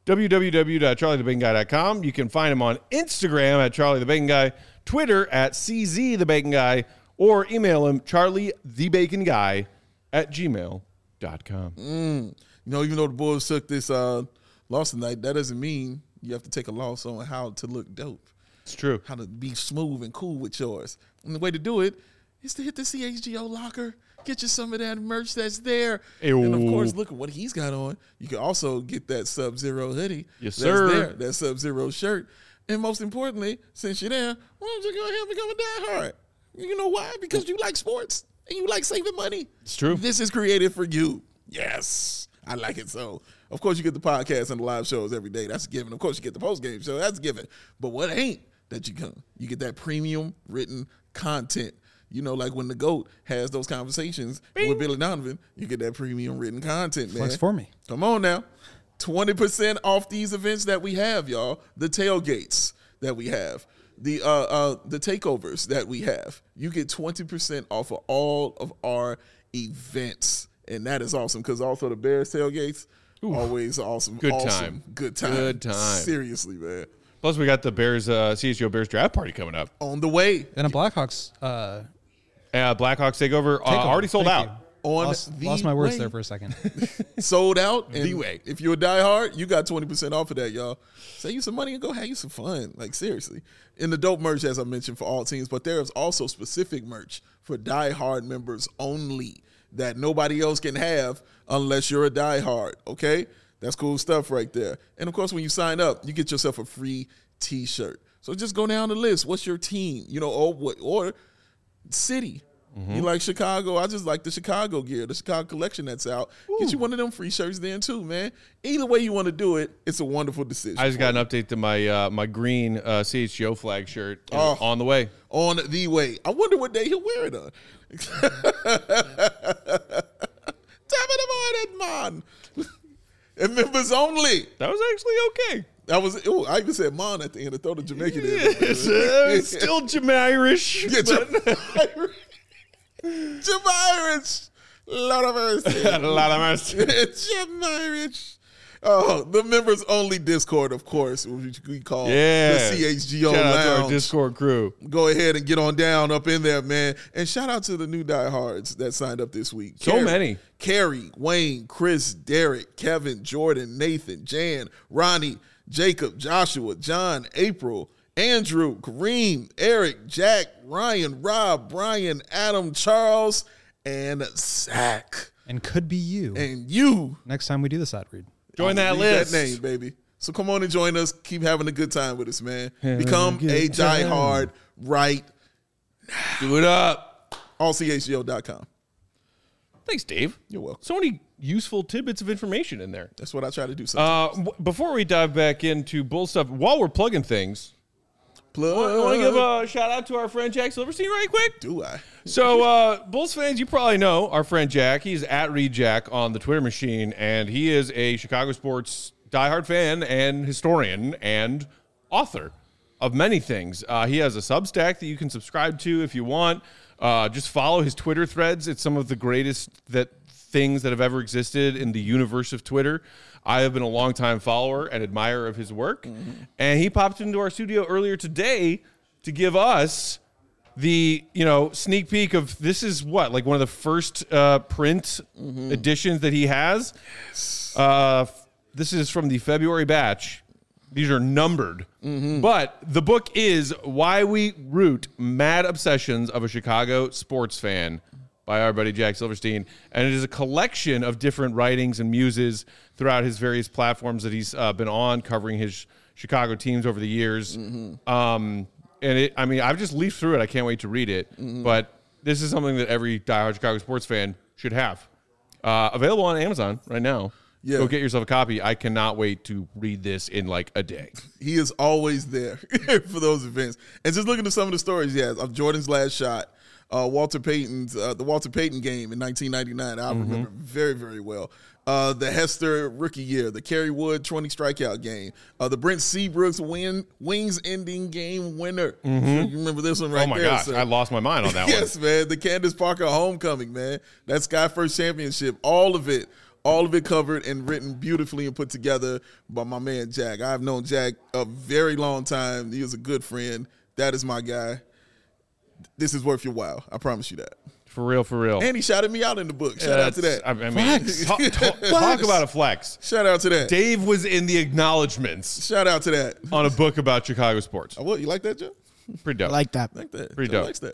www.charliethebaconguy.com. You can find him on Instagram at charliethebaconguy, Twitter at czthebaconguy, or email him charliethebaconguy at gmail.com. You know, even though the Bulls took this loss tonight, that doesn't mean you have to take a loss on how to look dope. It's true. How to be smooth and cool with yours. And the way to do it is to hit the CHGO locker. Get you some of that merch that's there. Ew. And, of course, look at what he's got on. You can also get that Sub-Zero hoodie. Yes, that's sir. there, that Sub-Zero shirt. And most importantly, since you're there, why don't you go ahead and become a diehard? You know why? Because you like sports and you like saving money. It's true. This is created for you. Yes. I like it so. Of course, you get the podcast and the live shows every day. That's a given. Of course, you get the post-game show. That's a given. But what ain't that you come? You get that premium written content. You know, like when the GOAT has those conversations with Billy Donovan, you get that premium written content, man. Flex for me. Come on now. 20% off these events that we have, y'all. The tailgates that we have. The takeovers that we have. You get 20% off of all of our events. And that is awesome because also the Bears tailgates, always awesome. Good awesome. time. Good time. Good time. Seriously, man. Plus, we got the Bears, CHGO Bears draft party coming up. On the way. And a Blackhawks Blackhawks takeover already sold Thank out. you. On Lost the my words way. there for a second. Sold out. And The way. If you're a diehard, you got 20% off of that, y'all. Save you some money and go have you some fun. Like, seriously. And the dope merch, as I mentioned, for all teams. But there is also specific merch for diehard members only that nobody else can have unless you're a diehard, okay? That's cool stuff right there. And, of course, when you sign up, you get yourself a free T-shirt. So just go down the list. What's your team? You know, or city. You like Chicago? I just like the Chicago gear, the Chicago collection that's out. Get you one of them free shirts then too, man. Either way you want to do it, it's a wonderful decision. I just got an update to my my green CHGO flag shirt on the way. On the way. I wonder what day he'll wear it on. Damn it, man. And members only. That was actually okay. That was. I even said "mon" at the end. I throw the Jamaican in. It's still Jamirish. Yeah, Jamirish. Lot of mercy. A lot of mercy. Jamirish. Oh, the members only Discord, of course, which we call Yeah. the CHGO Shout out to our Lounge. Discord crew. Go ahead and get on down up in there, man. And shout out to the new diehards that signed up this week. So many. Carrie, Wayne, Chris, Derek, Kevin, Jordan, Nathan, Jan, Ronnie, Jacob, Joshua, John, April, Andrew, Kareem, Eric, Jack, Ryan, Rob, Brian, Adam, Charles, and Zach. And could be you And you. next time we do this ad read. Join that Read list. That name, baby. So come on and join us. Keep having a good time with us, man. Become a diehard right Do it up. allchgo.com. Thanks, Dave. You're welcome. So many useful tidbits of information in there. That's what I try to do sometimes. Before we dive back into Bull stuff, while we're plugging things, Plug. I want to give a shout out to our friend Jack Silverstein right quick. Do I? So, Bulls fans, you probably know our friend Jack. He's at Reed Jack on the Twitter machine, and he is a Chicago sports diehard fan and historian and author of many things. He has a Substack that you can subscribe to if you want. Just follow his Twitter threads. It's some of the greatest things that have ever existed in the universe of Twitter. I have been a longtime follower and admirer of his work. Mm-hmm. And he popped into our studio earlier today to give us the, sneak peek of this is what, like one of the first print editions that he has. This is from the February batch. These are numbered. Mm-hmm. But the book is Why We Root Mad Obsessions of a Chicago Sports Fan by our buddy Jack Silverstein. And it is a collection of different writings and muses throughout his various platforms that he's been on, covering his Chicago teams over the years. Mm-hmm. I've just leafed through it. I can't wait to read it. Mm-hmm. But this is something that every diehard Chicago sports fan should have. Available on Amazon right now. Yeah. Go get yourself a copy. I cannot wait to read this in like a day. He is always there for those events. And just looking at some of the stories he has of Jordan's last shot, Walter Payton's the Walter Payton game in 1999. I remember very, very well. The Hester rookie year, the Kerry Wood 20 strikeout game, the Brent Seabrooks wings ending game winner. You remember this one right there? Oh my gosh, I lost my mind on that one. Yes, man. The Candace Parker homecoming, man. That Sky First championship, all of it covered and written beautifully and put together by my man Jack. I've known Jack a very long time. He was a good friend. That is my guy. This is worth your while. I promise you that. For real. And he shouted me out in the book. Shout out to that. Talk about a flex. Shout out to that. Dave was in the acknowledgments Shout out to that. on a book about Chicago sports. What, you like that, Joe? Pretty dope. I like that. Like that. Pretty Joe dope. likes that.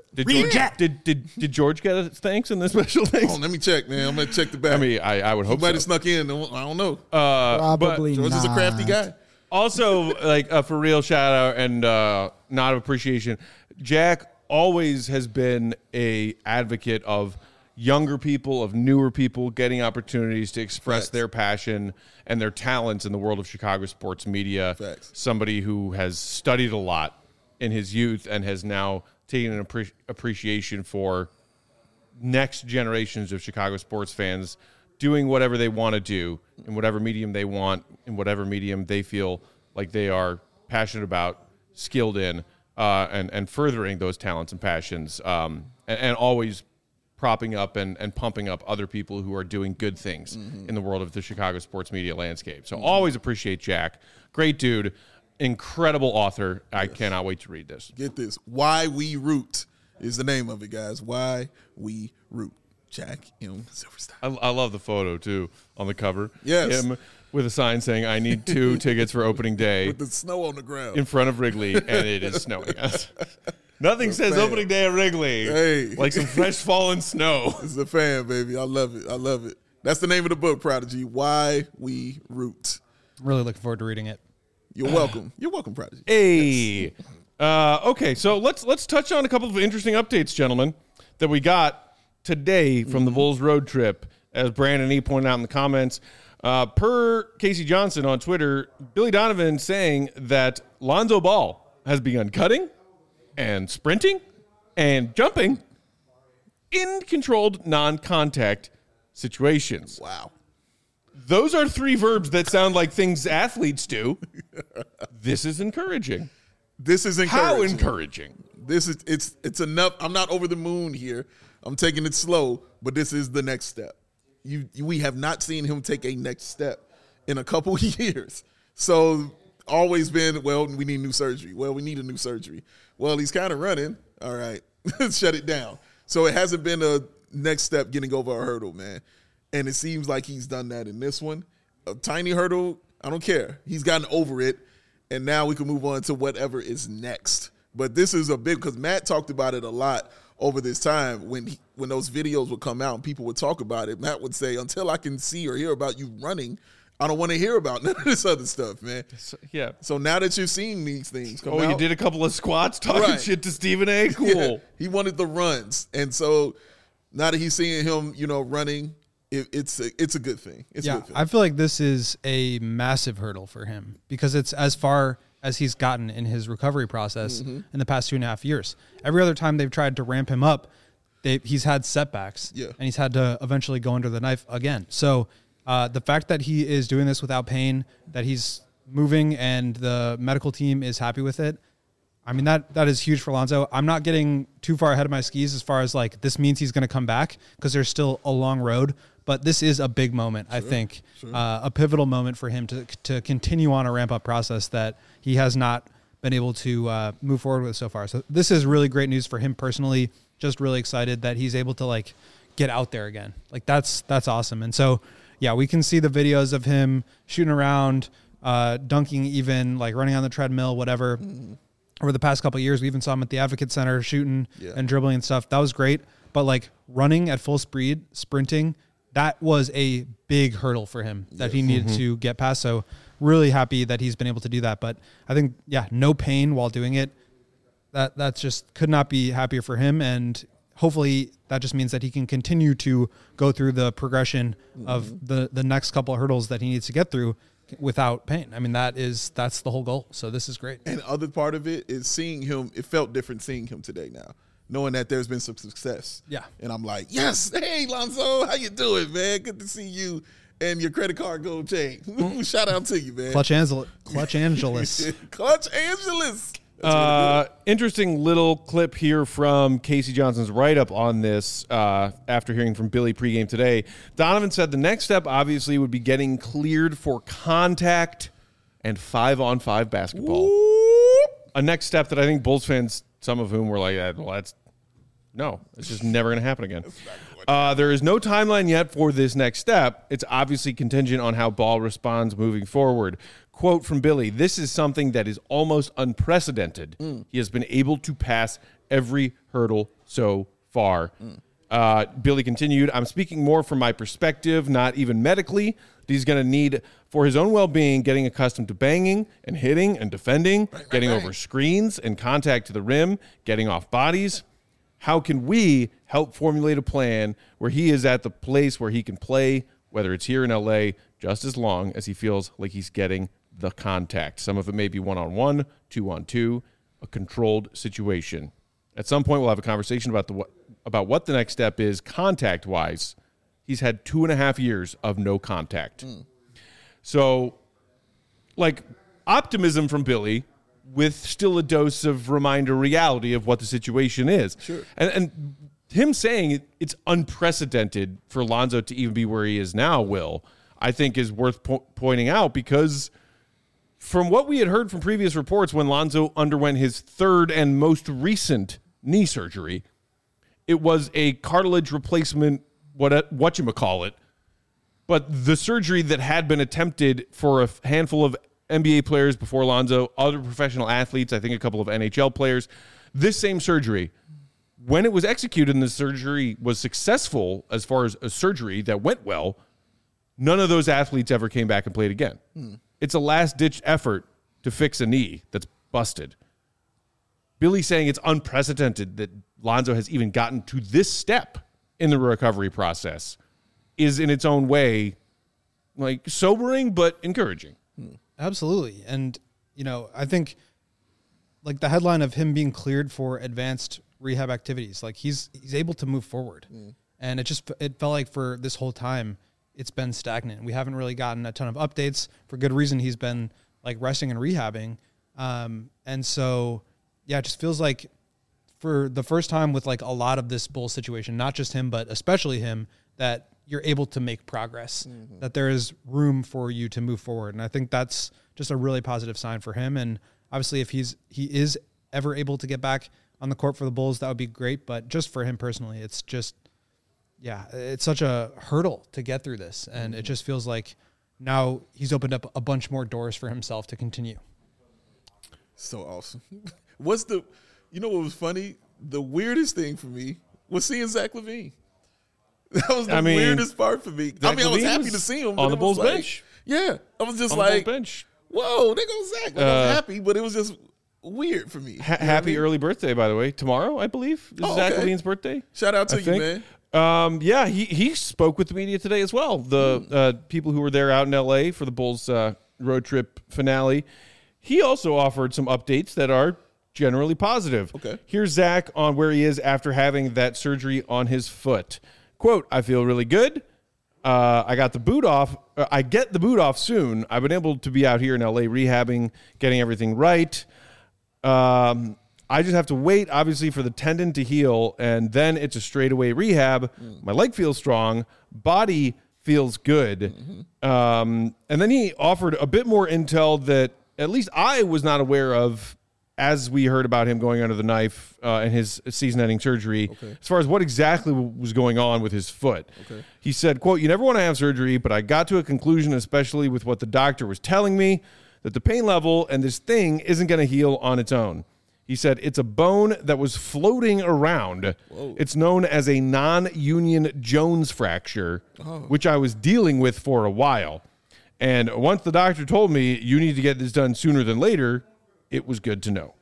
Did George get a thanks in the special thanks? Oh, let me check, man. I'm going to check the back. I mean, I would hope He might have so. snuck in. I don't know. Probably George not. is a crafty guy. Also, like for real shout out and nod of appreciation. Jack always has been a advocate of younger people, of newer people getting opportunities to express Facts. their passion and their talents in the world of Chicago sports media. Facts. Somebody who has studied a lot in his youth and has now taken an appreciation for next generations of Chicago sports fans doing whatever they want to do in whatever medium they want, in whatever medium they feel like they are passionate about, skilled in, and furthering those talents and passions, and always propping up and pumping up other people who are doing good things in the world of the Chicago sports media landscape. So always appreciate Jack. Great dude. Incredible author. I cannot wait to read this. Get this. Why We Root is the name of it, guys. Why We Root. Jack M. Silverstein. I love the photo, too, on the cover. Yes. Him with a sign saying, I need 2 tickets for opening day With the snow on the ground. in front of Wrigley, and it is snowing. Nothing says fan. opening day at Wrigley Hey. like some fresh fallen snow. This is a fan, baby. I love it. I love it. That's the name of the book, Prodigy. Why We Root. I'm really looking forward to reading it. You're welcome. You're welcome, Prodigy. Hey. Okay, so let's touch on a couple of interesting updates, gentlemen, that we got today from the Bulls road trip. As Brandon E. pointed out in the comments, per Casey Johnson on Twitter, Billy Donovan saying that Lonzo Ball has begun cutting and sprinting and jumping in controlled non-contact situations. Wow. Those are 3 verbs that sound like things athletes do. This is encouraging. This is encouraging. How encouraging? This is it's enough. I'm not over the moon here. I'm taking it slow, but this is the next step. We have not seen him take a next step in a couple years. So always been, well, we need new surgery. Well, we need a new surgery. Well, he's kind of running. All right, shut it down. So it hasn't been a next step getting over a hurdle, man. And it seems like he's done that in this one. A tiny hurdle, I don't care. He's gotten over it. And now we can move on to whatever is next. But this is a big, because Matt talked about it a lot over this time when those videos would come out and people would talk about it. Matt would say, until I can see or hear about you running, I don't want to hear about none of this other stuff, man. Yeah. So now that you're seeing these things come out. You did a couple of squats talking Right. shit to Stephen A. Cool. Yeah, he wanted the runs. And so now that he's seeing him, running, it's a good thing. It's a good thing. I feel like this is a massive hurdle for him because it's as far as he's gotten in his recovery process in the past 2.5 years. Every other time they've tried to ramp him up, he's had setbacks, and he's had to eventually go under the knife again. So the fact that he is doing this without pain, that he's moving, and the medical team is happy with it, I mean, that is huge for Lonzo. I'm not getting too far ahead of my skis as far as like this means he's going to come back because there's still a long road. But this is a big moment, I think, a pivotal moment for him to continue on a ramp-up process that he has not been able to move forward with so far. So this is really great news for him personally. Just really excited that he's able to like get out there again. Like that's awesome. And so, yeah, we can see the videos of him shooting around, dunking, even like running on the treadmill, whatever. Over the past couple of years, we even saw him at the Advocate Center shooting and dribbling and stuff. That was great. But like running at full speed, sprinting, that was a big hurdle for him that he needed to get past. So really happy that he's been able to do that. But I think, no pain while doing it. That just could not be happier for him. And hopefully that just means that he can continue to go through the progression of the next couple of hurdles that he needs to get through without pain. I mean, that's the whole goal. So this is great. And the other part of it is seeing him. It felt different seeing him today now, knowing that there's been some success. Yeah. And I'm like, yes, hey, Lonzo, how you doing, man? Good to see you and your credit card gold chain. Shout out to you, man. Clutch Angeles. Clutch Angeles. Interesting little clip here from Casey Johnson's write-up on this after hearing from Billy pregame today. Donovan said the next step obviously would be getting cleared for contact and 5-on-5 basketball. A next step that I think Bulls fans, some of whom were like, it's just never going to happen again. There is no timeline yet for this next step. It's obviously contingent on how Ball responds moving forward. Quote from Billy, "This is something that is almost unprecedented. He has been able to pass every hurdle so far." Billy continued, "I'm speaking more from my perspective, not even medically. He's going to need, for his own well-being, getting accustomed to banging and hitting and defending, getting over screens and contact to the rim, getting off bodies. How can we help formulate a plan where he is at the place where he can play, whether it's here in LA, just as long as he feels like he's getting the contact? Some of it may be 1-on-1, 2-on-2, a controlled situation. At some point, we'll have a conversation about what the next step is contact-wise. He's had 2.5 years of no contact." So, like, optimism from Billy with still a dose of reminder reality of what the situation is. Sure. And him saying it's unprecedented for Lonzo to even be where he is now, Will, I think is worth pointing out, because from what we had heard from previous reports when Lonzo underwent his third and most recent knee surgery, it was a cartilage replacement, whatchamacallit, but the surgery that had been attempted for a handful of NBA players before Lonzo, other professional athletes, I think a couple of NHL players, this same surgery, when it was executed and the surgery was successful as far as a surgery that went well, none of those athletes ever came back and played again. It's a last-ditch effort to fix a knee that's busted. Billy saying it's unprecedented that Lonzo has even gotten to this step in the recovery process is in its own way like sobering but encouraging. Absolutely. And, I think like the headline of him being cleared for advanced rehab activities, like he's able to move forward. And it felt like for this whole time, it's been stagnant. We haven't really gotten a ton of updates. For good reason, he's been like resting and rehabbing. And so, it just feels like for the first time with like a lot of this Bull situation, not just him, but especially him, that you're able to make progress, that there is room for you to move forward. And I think that's just a really positive sign for him. And obviously if he is ever able to get back on the court for the Bulls, that would be great. But just for him personally, it's just, it's such a hurdle to get through this. And it just feels like now he's opened up a bunch more doors for himself to continue. So awesome. You know what was funny? The weirdest thing for me was seeing Zach LaVine. That was the weirdest part for me. I was happy to see him on the Bulls bench. Yeah, I was just on like, the Bulls bench. Whoa, there goes Zach. Like, I was happy, but it was just weird for me. Happy early birthday, by the way. Tomorrow, I believe, is Zach LaVine's birthday. Shout out to you, man. He spoke with the media today as well. The people who were there out in L.A. for the Bulls road trip finale. He also offered some updates that are generally positive. Okay. Here's Zach on where he is after having that surgery on his foot. Quote, I feel really good. I got the boot off. I get the boot off soon. I've been able to be out here in LA rehabbing, getting everything right. I just have to wait, obviously, for the tendon to heal, and then it's a straightaway rehab. My leg feels strong. Body feels good. And then he offered a bit more intel that at least I was not aware of as we heard about him going under the knife and his season-ending surgery, as far as what exactly was going on with his foot. He said, quote, you never want to have surgery, but I got to a conclusion, especially with what the doctor was telling me, that the pain level and this thing isn't going to heal on its own. He said, it's a bone that was floating around. Whoa. It's known as a non-union Jones fracture, which I was dealing with for a while. And once the doctor told me you need to get this done sooner than later, it was good to know.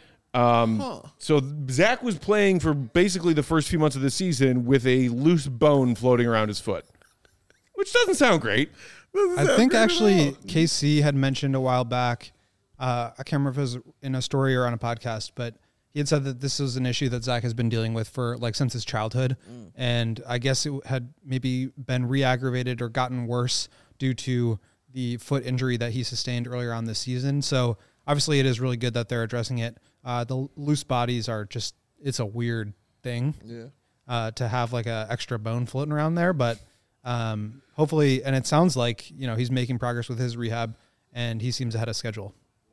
So Zach was playing for basically the first few months of the season with a loose bone floating around his foot, which doesn't sound great. I think actually KC had mentioned a while back, I can't remember if it was in a story or on a podcast, but he had said that this was an issue that Zach has been dealing with for since his childhood. And I guess it had maybe been re-aggravated or gotten worse due to the foot injury that he sustained earlier on this season. So obviously it is really good that they're addressing it. The loose bodies are just, it's a weird thing to have a extra bone floating around there, but hopefully, and it sounds like, he's making progress with his rehab and he seems ahead of schedule.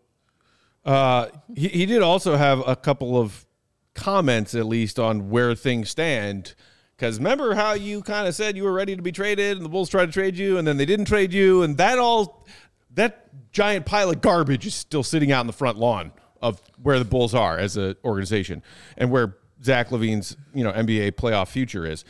He did also have a couple of comments, at least, on where things stand. Because remember how you kind of said you were ready to be traded and the Bulls tried to trade you and then they didn't trade you, and that giant pile of garbage is still sitting out in the front lawn of where the Bulls are as an organization and where Zach LaVine's NBA playoff future is.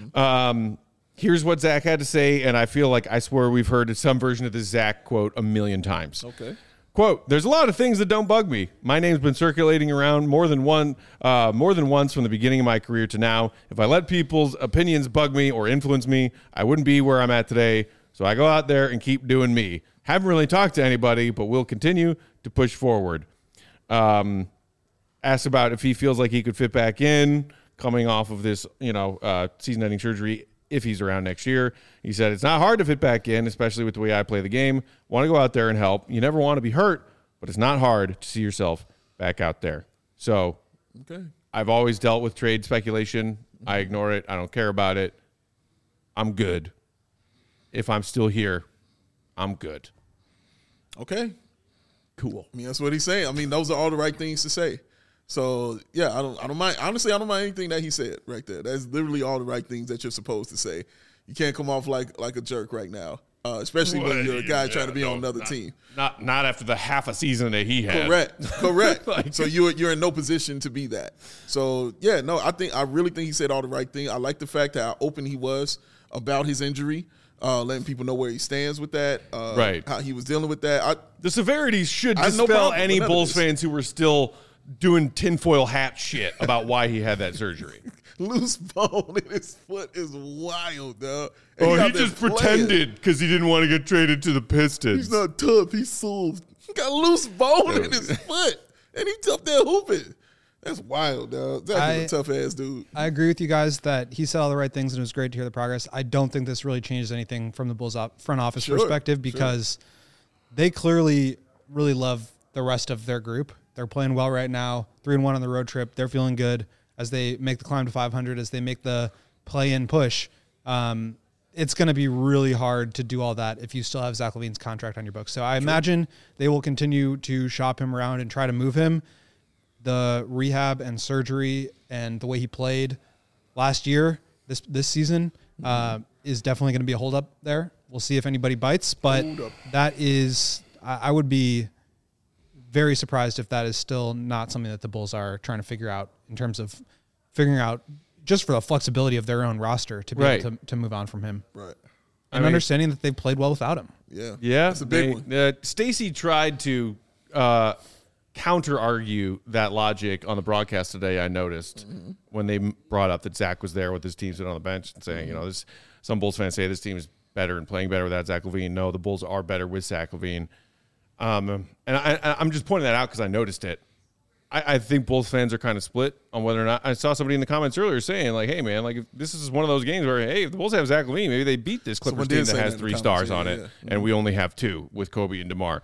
Here's what Zach had to say, and I feel like I swear we've heard some version of this Zach quote a million times. Okay. Quote, there's a lot of things that don't bug me. My name's been circulating around more than once from the beginning of my career to now. If I let people's opinions bug me or influence me, I wouldn't be where I'm at today. So I go out there and keep doing me. Haven't really talked to anybody, but we'll continue to push forward. Asked about if he feels like he could fit back in coming off of this, season-ending surgery if he's around next year. He said, it's not hard to fit back in, especially with the way I play the game. Want to go out there and help. You never want to be hurt, but it's not hard to see yourself back out there. So I've always dealt with trade speculation. I ignore it. I don't care about it. I'm good. If I'm still here, I'm good. Okay. Cool. I mean, that's what he's saying. I mean, those are all the right things to say. So yeah, I don't mind. Honestly, I don't mind anything that he said right there. That's literally all the right things that you're supposed to say. You can't come off like a jerk right now, especially when you're a guy trying to be on another team. Not after the half a season that he had. Correct. So you're in no position to be that. So yeah, no, I really think he said all the right thing. I like the fact how open he was about his injury. Letting people know where he stands with that, how he was dealing with that. The severities should dispel any Bulls fans who were still doing tinfoil hat shit about why he had that surgery. Loose bone in his foot is wild, dog. He just pretended because he didn't want to get traded to the Pistons. He's not tough. He's soft. He got a loose bone in his foot, and he's up there hooping. That's wild, dog. That's a tough ass dude. I agree with you guys that he said all the right things and it was great to hear the progress. I don't think this really changes anything from the Bulls front office perspective because they clearly really love the rest of their group. They're playing well right now, 3-1 on the road trip. They're feeling good as they make the climb to 500, as they make the play-in push. it's going to be really hard to do all that if you still have Zach LaVine's contract on your books. So I imagine they will continue to shop him around and try to move him. The rehab and surgery and the way he played last year, this season, is definitely going to be a holdup there. We'll see if anybody bites, but that is, I would be very surprised if that is still not something that the Bulls are trying to figure out in terms of figuring out just for the flexibility of their own roster to be able to move on from him. Right. And understanding that they've played well without him. Yeah. Yeah. That's a big one. Stacey tried to counter-argue that logic on the broadcast today, I noticed, when they brought up that Zach was there with his team sitting on the bench and saying, some Bulls fans say this team is better and playing better without Zach LaVine. No, the Bulls are better with Zach LaVine. And I'm just pointing that out because I noticed it. I think Bulls fans are kind of split on whether or not. I saw somebody in the comments earlier saying, like, hey, man, like, if this is one of those games where, hey, if the Bulls have Zach LaVine, maybe they beat this Clippers team that has 3 stars on it, and we only have 2 with Kobe and DeMar.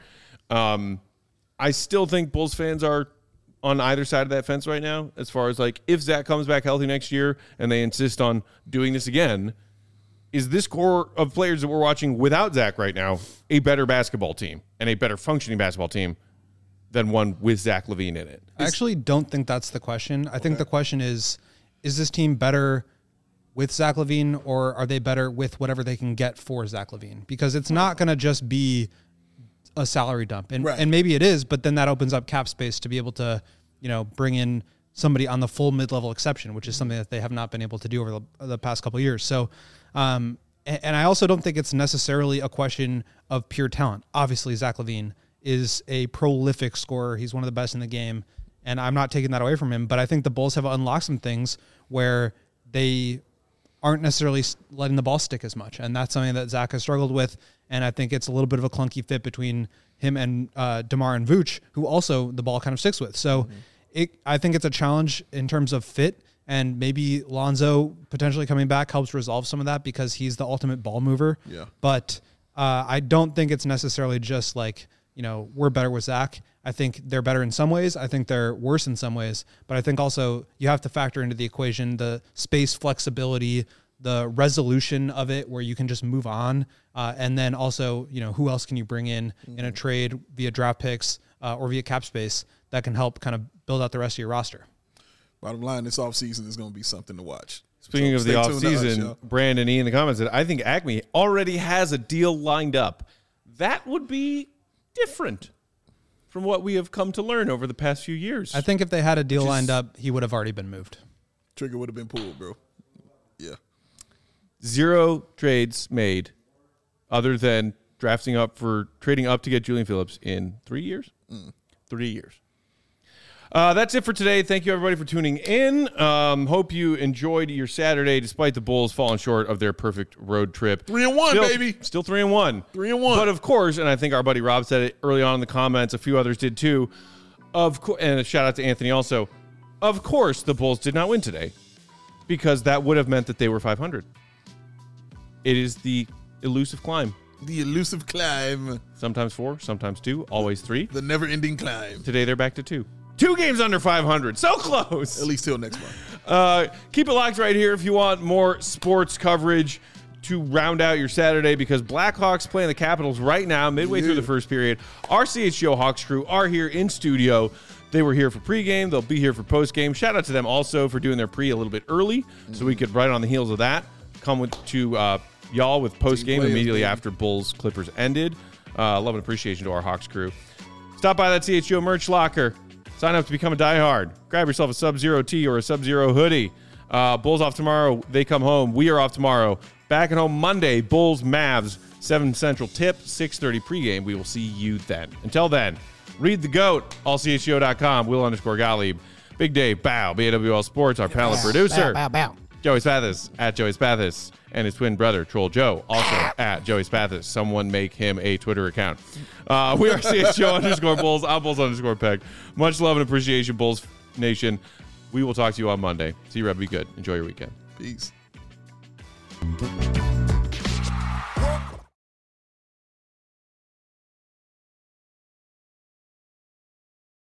I still think Bulls fans are on either side of that fence right now as far as, like, if Zach comes back healthy next year and they insist on doing this again, is this core of players that we're watching without Zach right now a better basketball team and a better functioning basketball team than one with Zach LaVine in it? I actually don't think that's the question. I think the question is this team better with Zach LaVine, or are they better with whatever they can get for Zach LaVine? Because it's not going to just be a salary dump. And maybe it is, but then that opens up cap space to be able to, bring in somebody on the full mid-level exception, which is something that they have not been able to do over the past couple of years. So, and I also don't think it's necessarily a question of pure talent. Obviously, Zach LaVine is a prolific scorer. He's one of the best in the game, and I'm not taking that away from him. But I think the Bulls have unlocked some things where they aren't necessarily letting the ball stick as much, and that's something that Zach has struggled with. And I think it's a little bit of a clunky fit between him and DeMar and Vooch, who also the ball kind of sticks with. So I think it's a challenge in terms of fit, and maybe Lonzo potentially coming back helps resolve some of that because he's the ultimate ball mover. Yeah. But I don't think it's necessarily just like, we're better with Zach. I think they're better in some ways. I think they're worse in some ways. But I think also you have to factor into the equation the space flexibility, the resolution of it where you can just move on. And then also, who else can you bring in a trade via draft picks or via cap space that can help kind of build out the rest of your roster. Bottom line, this offseason is going to be something to watch. Speaking of the offseason, Brandon E. in the comments said, I think Acme already has a deal lined up. That would be different from what we have come to learn over the past few years. I think if they had a deal lined up, he would have already been moved. Trigger would have been pulled, bro. Yeah. 0 trades made other than trading up to get Julian Phillips in 3 years. 3 years. That's it for today. Thank you, everybody, for tuning in. Hope you enjoyed your Saturday, despite the Bulls falling short of their perfect road trip. 3-1, baby. Still 3-1. 3-1. But, of course, and I think our buddy Rob said it early on in the comments, a few others did too, and a shout-out to Anthony also, of course the Bulls did not win today because that would have meant that they were 500. It is the elusive climb. The elusive climb. Sometimes 4, sometimes 2, always 3. The never-ending climb. Today they're back to 2. 2 games under 500. So close. At least till next month. Keep it locked right here if you want more sports coverage to round out your Saturday, because Blackhawks playing the Capitals right now, midway through the first period. Our CHGO Hawks crew are here in studio. They were here for pregame. They'll be here for postgame. Shout out to them also for doing their pre a little bit early so we could, right on the heels of that, come to y'all with postgame immediately after Bulls Clippers ended. Love and appreciation to our Hawks crew. Stop by that CHGO merch locker. Sign up to become a diehard. Grab yourself a Sub-Zero tee or a Sub-Zero hoodie. Bulls off tomorrow. They come home. We are off tomorrow. Back at home Monday. Bulls, Mavs, 7 Central tip, 6:30 pregame. We will see you then. Until then, read the GOAT, allchgo.com, Will_Gottlieb. Big Dave, Bow, BAWL Sports, our panel producer. Bow. Joey Spathis, at Joey Spathis, and his twin brother, Troll Joe, also at Joey Spathis. Someone make him a Twitter account. We are CHGO_Bulls. I'm Bulls_Peg. Much love and appreciation, Bulls Nation. We will talk to you on Monday. See you, Reb. Be good. Enjoy your weekend. Peace.